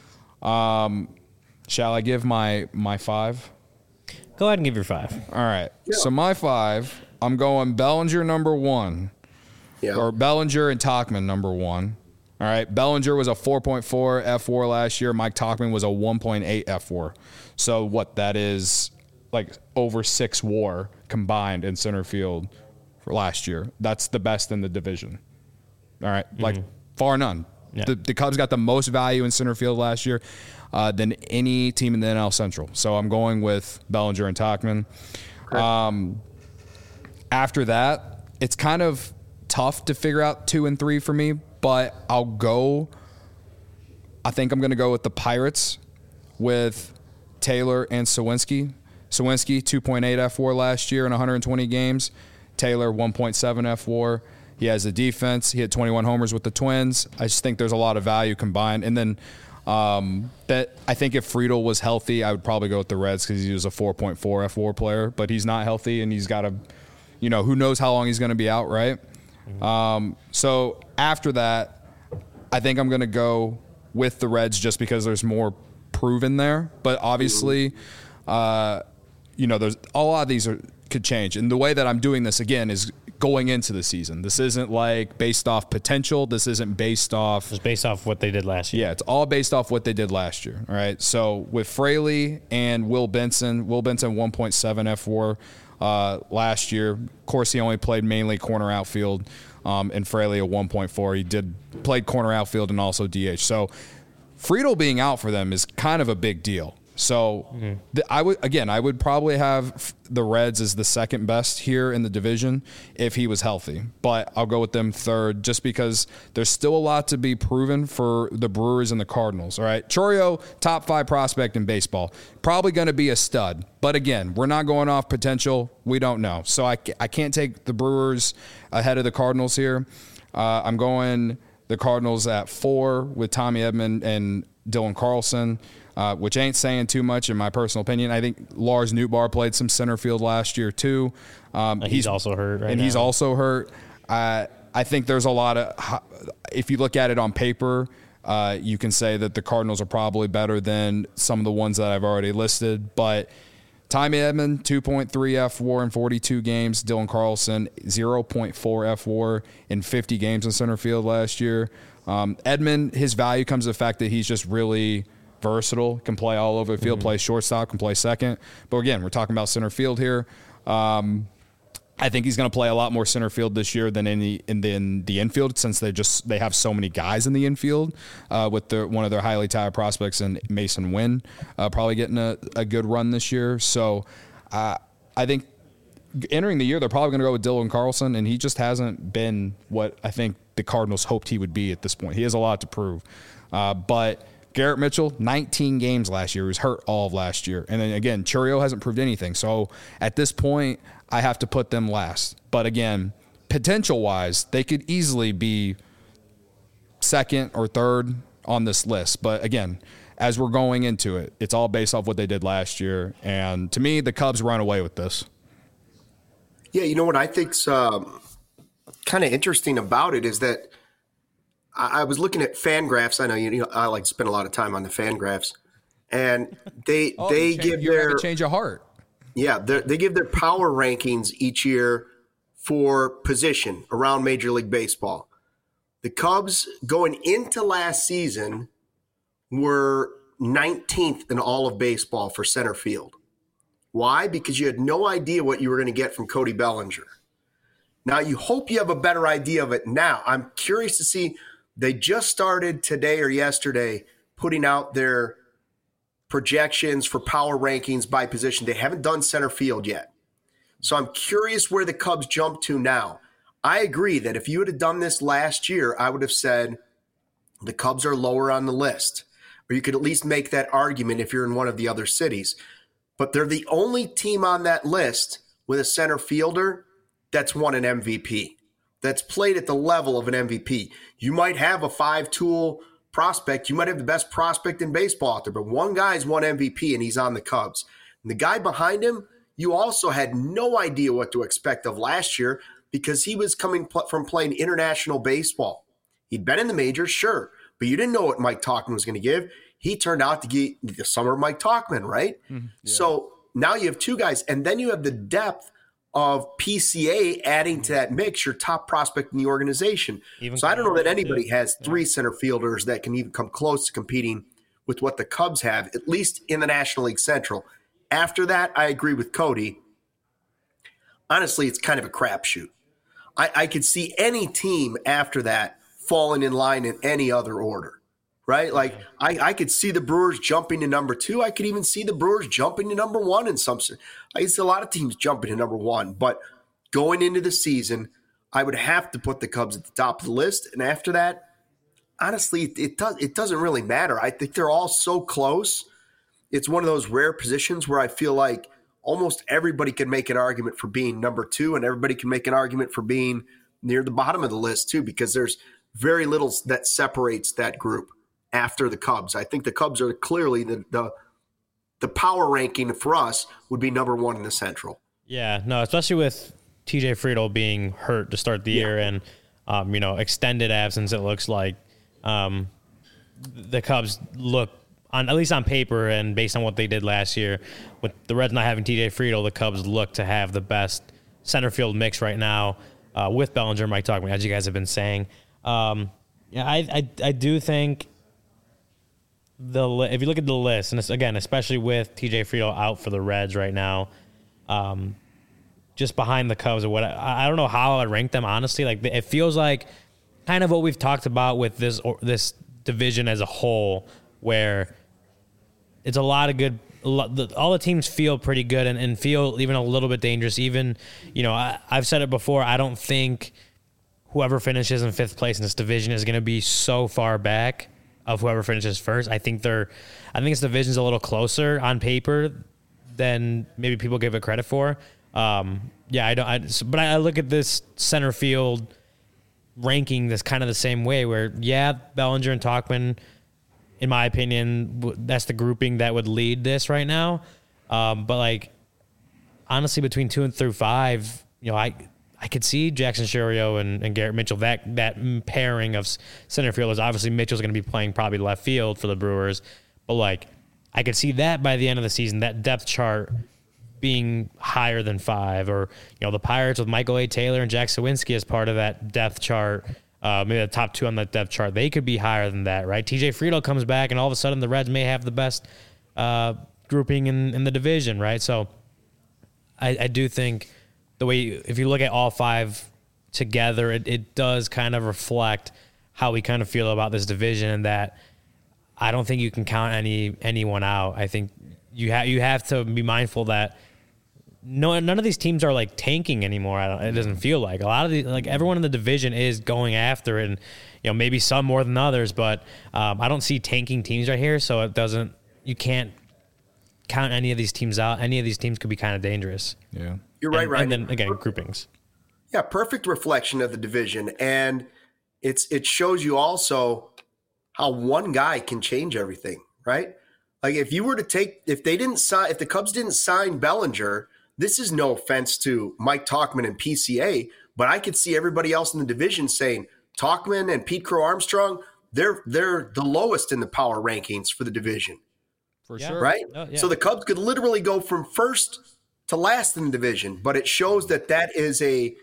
shall I give my 5? Go ahead and give your 5. All right. Yeah. So my 5, I'm going Bellinger number 1, or Bellinger and Tauchman number 1. All right. Bellinger was a 4.4 F4 last year. Mike Tauchman was a 1.8 F4. So that is over 6 WAR combined in center field for last year. That's the best in the division. All right, like far none. Yeah. The Cubs got the most value in center field last year than any team in the NL Central. So I'm going with Bellinger and Tauchman. After that, it's kind of tough to figure out 2 and 3 for me, but I think I'm going to go with the Pirates with Taylor and Sawinski. Sawinski, 2.8 F4 last year in 120 games. Taylor, 1.7 F4. He has the defense. He hit 21 homers with the Twins. I just think there's a lot of value combined. And then that I think if Friedel was healthy, I would probably go with the Reds because he was a 4.4 F4 player, but he's not healthy and he's got to, who knows how long he's going to be out, right? So after that, I think I'm going to go with the Reds just because there's more proven there. But obviously, there's a lot of these could change. And the way that I'm doing this, again, is going into the season. This isn't like based off potential. This isn't based off. It's based off what they did last year. Yeah, it's all based off what they did last year. All right. So with Fraley and Will Benson 1.7 F4 last year. Of course, he only played mainly corner outfield, and Fraley a 1.4. He played corner outfield and also DH. So Friedel being out for them is kind of a big deal. So I would probably have the Reds as the second best here in the division if he was healthy, but I'll go with them third just because there's still a lot to be proven for the Brewers and the Cardinals. All right. Chourio, top 5 prospect in baseball, probably going to be a stud, but again, we're not going off potential. We don't know. So I can't take the Brewers ahead of the Cardinals here. I'm going the Cardinals at 4 with Tommy Edman and Dylan Carlson. Which ain't saying too much in my personal opinion. I think Lars Nootbaar played some center field last year too. He's also hurt right now. He's also hurt. I think there's a lot of – if you look at it on paper, you can say that the Cardinals are probably better than some of the ones that I've already listed. But Tommy Edman, 2.3 F4 in 42 games. Dylan Carlson, 0.4 F4 in 50 games in center field last year. Edman, his value comes to the fact that he's just really – versatile, can play all over the field, play shortstop, can play second. But again, we're talking about center field here. I think he's going to play a lot more center field this year than in the infield since they have so many guys in the infield with one of their highly touted prospects in Mason Wynn probably getting a good run this year. So I think entering the year, they're probably going to go with Dylan Carlson, and he just hasn't been what I think the Cardinals hoped he would be at this point. He has a lot to prove. But Garrett Mitchell, 19 games last year. He was hurt all of last year. And then, again, Chourio hasn't proved anything. So, at this point, I have to put them last. But, again, potential-wise, they could easily be second or third on this list. But, again, as we're going into it, it's all based off what they did last year. And, to me, the Cubs run away with this. Yeah, you know what I think's kind of interesting about it is that I was looking at Fangraphs. I know I like to spend a lot of time on the Fangraphs, and they give their change of heart. Yeah, they give their power rankings each year for position around Major League Baseball. The Cubs going into last season were 19th in all of baseball for center field. Why? Because you had no idea what you were going to get from Cody Bellinger. Now you hope you have a better idea of it now. I'm curious to see. They just started today or yesterday putting out their projections for power rankings by position. They haven't done center field yet. So I'm curious where the Cubs jump to now. I agree that if you would have done this last year, I would have said the Cubs are lower on the list. Or you could at least make that argument if you're in one of the other cities. But they're the only team on that list with a center fielder that's won an MVP. That's played at the level of an MVP. You might have a 5-tool prospect. You might have the best prospect in baseball out there, but one guy's won MVP and he's on the Cubs. And the guy behind him, you also had no idea what to expect of last year because he was coming from playing international baseball. He'd been in the majors, sure, but you didn't know what Mike Tauchman was going to give. He turned out to get the summer of Mike Tauchman, right? Mm-hmm. Yeah. So now you have 2 guys, and then you have the depth of PCA adding to that mix, your top prospect in the organization. So I don't know that anybody has 3 center fielders that can even come close to competing with what the Cubs have, at least in the National League Central. After that, I agree with Cody. Honestly, it's kind of a crapshoot. I could see any team after that falling in line in any other order, right? Like I could see the Brewers jumping to number 2. I could even see the Brewers jumping to number 1 in some. I see a lot of teams jumping to number 1, but going into the season, I would have to put the Cubs at the top of the list. And after that, honestly, it doesn't really matter. I think they're all so close. It's one of those rare positions where I feel like almost everybody can make an argument for being number 2, and everybody can make an argument for being near the bottom of the list too, because there's very little that separates that group after the Cubs. I think the Cubs are clearly the power ranking for us would be number 1 in the Central. Yeah, no, especially with TJ Friedl being hurt to start the year and, extended absence, it looks like the Cubs look, at least on paper and based on what they did last year, with the Reds not having TJ Friedl, the Cubs look to have the best center field mix right now with Bellinger, Mike Tauchman, as you guys have been saying. I do think if you look at the list, and it's, again, especially with TJ Friedl out for the Reds right now, just behind the Cubs or what, I don't know how I'd rank them, honestly. Like, it feels like kind of what we've talked about with this division as a whole, where it's a lot of good. All the teams feel pretty good and feel even a little bit dangerous. Even, I've said it before, I don't think whoever finishes in 5th place in this division is going to be so far back of whoever finishes first. I think this division's a little closer on paper than maybe people give it credit for. But I look at this center field ranking this kind of the same way, where Bellinger and Tauchman, in my opinion, that's the grouping that would lead this right now. But like, honestly, between 2 and through 5, I could see Jackson Chourio and Garrett Mitchell, that pairing of center fielders. Obviously, Mitchell's going to be playing probably left field for the Brewers, but like, I could see that by the end of the season, that depth chart being higher than 5, or the Pirates with Michael A. Taylor and Jack Sawinski as part of that depth chart. Maybe the top 2 on that depth chart, they could be higher than that, right? TJ Friedl comes back, and all of a sudden the Reds may have the best grouping in the division, right? So I do think if you look at all 5 together, it does kind of reflect how we kind of feel about this division, and that I don't think you can count anyone out. I think you have to be mindful that none of these teams are like tanking anymore. It doesn't feel like a lot of everyone in the division is going after it, and maybe some more than others, but I don't see tanking teams right here. So you can't count any of these teams out. Any of these teams could be kind of dangerous. Yeah, you're right. And then again, groupings. Yeah, perfect reflection of the division, and it shows you also how one guy can change everything, right? Like if the Cubs didn't sign Bellinger. This is no offense to Mike Tauchman and PCA, but I could see everybody else in the division saying Tauchman and Pete Crow Armstrong, they're the lowest in the power rankings for the division. For sure. Right? Oh, yeah. So the Cubs could literally go from first to last in the division, but it shows that is a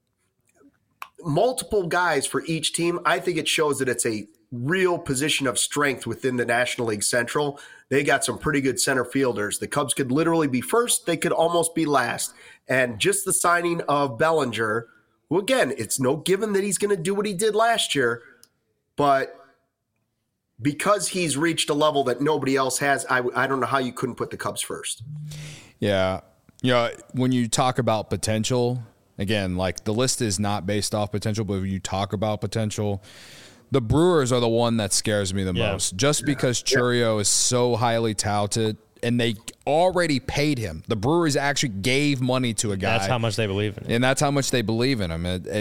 multiple guys for each team. I think it shows that it's a real position of strength within the National League Central. They got some pretty good center fielders. The Cubs could literally be first. They could almost be last. And just the signing of Bellinger, who again, it's no given that he's going to do what he did last year, but because he's reached a level that nobody else has, I don't know how you couldn't put the Cubs first. Yeah. When you talk about potential, again, like the list is not based off potential, but when you talk about potential, the Brewers are the one that scares me the most, just because Chourio is so highly touted, and they already paid him. The Brewers actually gave money to a guy. That's how much they believe in him. And that's how much they believe in him.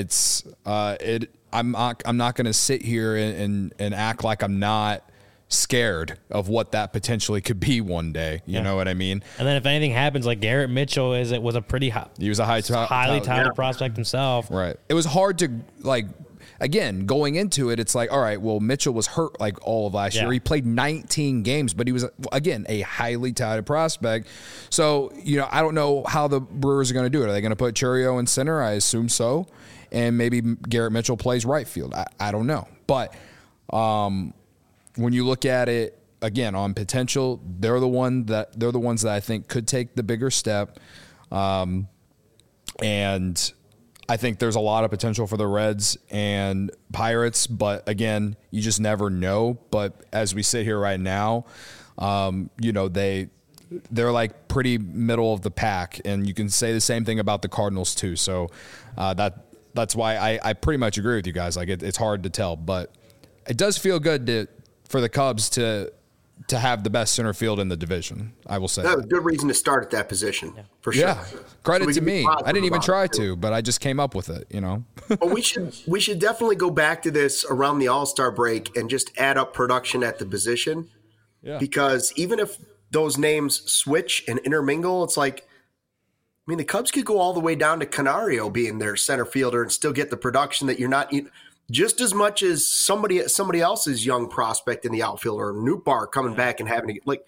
I'm not going to sit here and act like I'm not scared of what that potentially could be one day. You know what I mean? And then if anything happens, like Garrett Mitchell was a pretty high, he was a highly touted prospect himself. Right. It was hard to again, going into it, it's like, all right, well, Mitchell was hurt like all of last year. He played 19 games, but he was, again, a highly touted prospect. So, I don't know how the Brewers are going to do it. Are they going to put Chourio in center? I assume so. And maybe Garrett Mitchell plays right field. I don't know. But when you look at it, again, on potential, they're the ones that I think could take the bigger step. And I think there's a lot of potential for the Reds and Pirates, but again, you just never know. But as we sit here right now, they're like pretty middle of the pack, and you can say the same thing about the Cardinals too. So that's why I pretty much agree with you guys. Like it's hard to tell, but it does feel good for the Cubs to have the best center field in the division. I will say that was a good reason to start at that position for sure. Yeah, credit to me. I didn't even try to, but I just came up with it. But we should definitely go back to this around the All-Star break and just add up production at the position. Yeah. Because even if those names switch and intermingle, it's like, the Cubs could go all the way down to Canario being their center fielder and still get the production that you're not just as much as somebody else's young prospect in the outfield, or Nootbaar coming back and having to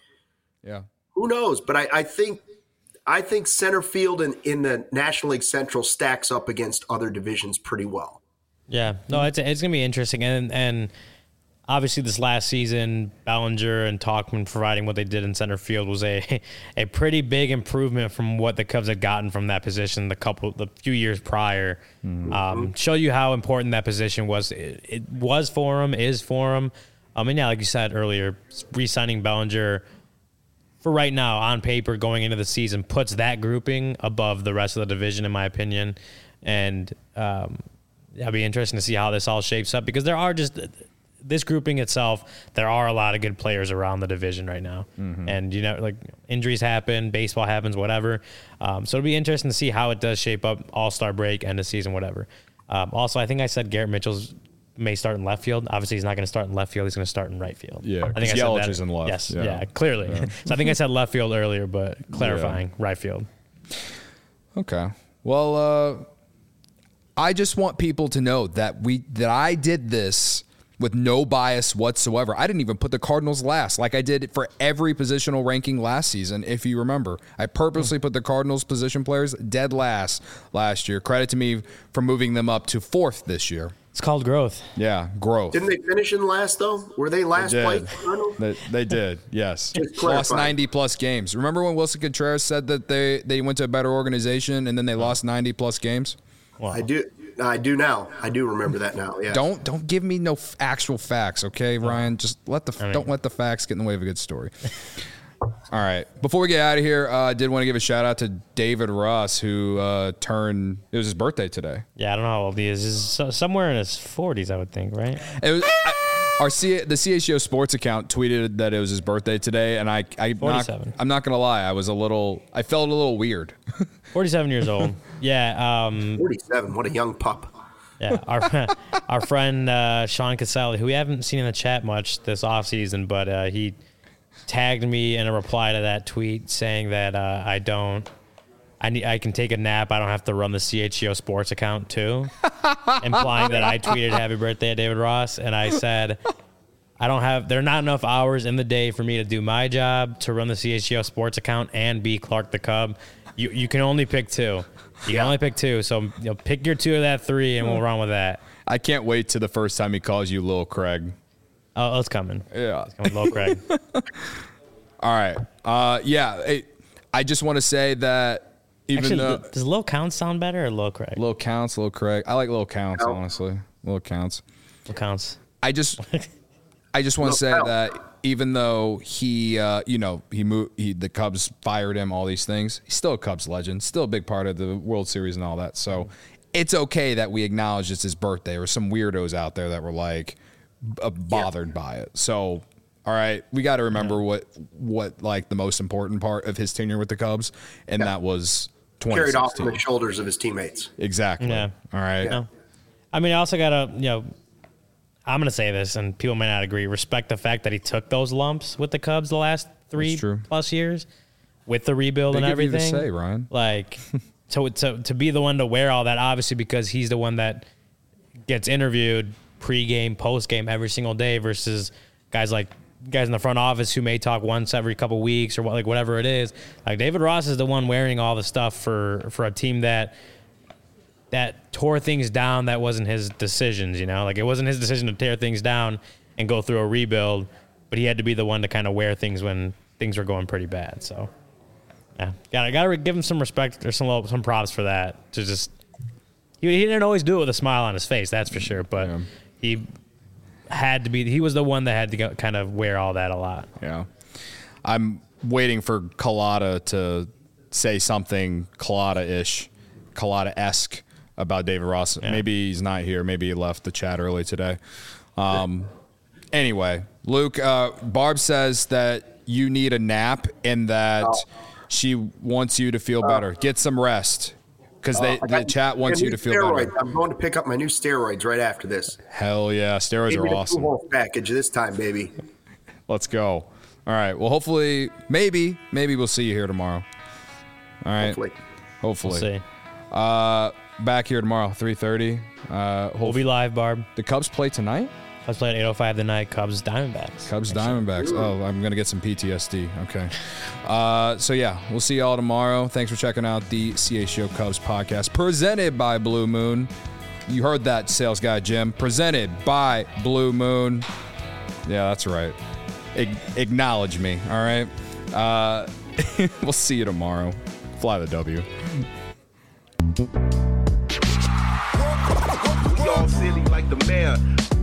who knows? But I think center field in the National League Central stacks up against other divisions pretty well. Yeah, no, it's gonna be interesting, and obviously this last season, Bellinger and Tauchman providing what they did in center field was a pretty big improvement from what the Cubs had gotten from that position the few years prior. Show you how important that position was. It was for him, is for him. And yeah, like you said earlier, re-signing Bellinger for right now on paper going into the season puts that grouping above the rest of the division, in my opinion. And it'll be interesting to see how this all shapes up, because there are just – this grouping itself, there are a lot of good players around the division right now. Mm-hmm. And, injuries happen, baseball happens, whatever. So it'll be interesting to see how it does shape up All-Star break, end of season, whatever. Also, I think I said Garrett Mitchell's may start in left field. Obviously, he's not going to start in left field. He's going to start in right field. Yeah, I think Yelich is in left. Yes, yeah clearly. Yeah. So I think I said left field earlier, but clarifying right field. Okay. Well, I just want people to know that I did this with no bias whatsoever. I didn't even put the Cardinals last, like I did for every positional ranking last season, if you remember. I purposely put the Cardinals position players dead last year. Credit to me for moving them up to 4th this year. It's called growth. Yeah, growth. Didn't they finish in last, though? Were they last place? They did, yes. Lost 90-plus games. Remember when Wilson Contreras said that they went to a better organization and then they lost 90-plus games? Wow. I do now. I do remember that now. Yeah. Don't give me no actual facts, okay, Ryan? Just don't let the facts get in the way of a good story. All right. Before we get out of here, I did want to give a shout out to David Ross, who it was his birthday today. Yeah, I don't know how old he is. He's somewhere in his 40s, I would think, right? It was the CHGO Sports account tweeted that it was his birthday today, and I'm not gonna lie, I felt a little weird. 47 years old. Yeah. 47. What a young pup. Yeah. Our friend Sean Caselli, who we haven't seen in the chat much this offseason, but he tagged me in a reply to that tweet saying that I can take a nap. I don't have to run the CHGO Sports account too, implying that I tweeted happy birthday at David Ross. And I said, there are not enough hours in the day for me to do my job, to run the CHGO Sports account and be Clark the Cub. You can only pick two. You can only pick two. So pick your two of that three and we'll run with that. I can't wait to the first time he calls you Lil Craig. Oh, it's coming. Yeah. It's coming, Lil Craig. All right. I just want to say that does Lil Counts sound better or Lil Craig? Lil Counts, Lil Craig. I like Lil Counts, honestly. Lil Counts. Lil Counts. I just want to say that even though the Cubs fired him, all these things, he's still a Cubs legend, still a big part of the World Series and all that. So it's okay that we acknowledge it's his birthday, or some weirdos out there that were like bothered by it. So, all right, we got to remember what like the most important part of his tenure with the Cubs, and that was 2016. Carried off from the shoulders of his teammates. Exactly. Yeah. All right. Yeah. I mean, I also got to, I'm going to say this, and people may not agree, respect the fact that he took those lumps with the Cubs the last 3+ years with the rebuild and everything. You to say, Ryan. Like, to be the one to wear all that, obviously, because he's the one that gets interviewed pre-game, post-game every single day versus guys in the front office who may talk once every couple weeks or whatever it is. Like, David Ross is the one wearing all the stuff for a team that tore things down. That wasn't his decisions, Like, it wasn't his decision to tear things down and go through a rebuild, but he had to be the one to kind of wear things when things were going pretty bad. So, yeah, gotta give him some respect or some props for that, to just He didn't always do it with a smile on his face, that's for sure. But he had to be. He was the one that had to go, kind of wear all that a lot. Yeah, I'm waiting for Collada to say something Collada-esque about David Ross. Yeah. Maybe he's not here. Maybe he left the chat early today. Anyway, Luke, Barb says that you need a nap and that she wants you to feel better. Get some rest. Because the chat wants you to feel better. I'm going to pick up my new steroids right after this. Hell yeah. Steroids are awesome. Full package this time, baby. Let's go. All right. Well, hopefully, maybe we'll see you here tomorrow. All right. Hopefully. We'll see. Back here tomorrow, 3:30. We'll be live, Barb. The Cubs play tonight? Let's play at 8:05 tonight. Cubs Diamondbacks. Diamondbacks. Oh, I'm gonna get some PTSD. Okay. So yeah, we'll see y'all tomorrow. Thanks for checking out the CHGO Cubs podcast presented by Blue Moon. You heard that, sales guy Jim. Presented by Blue Moon. Yeah, that's right. Acknowledge me. All right. We'll see you tomorrow. Fly the W. We all silly like the mayor.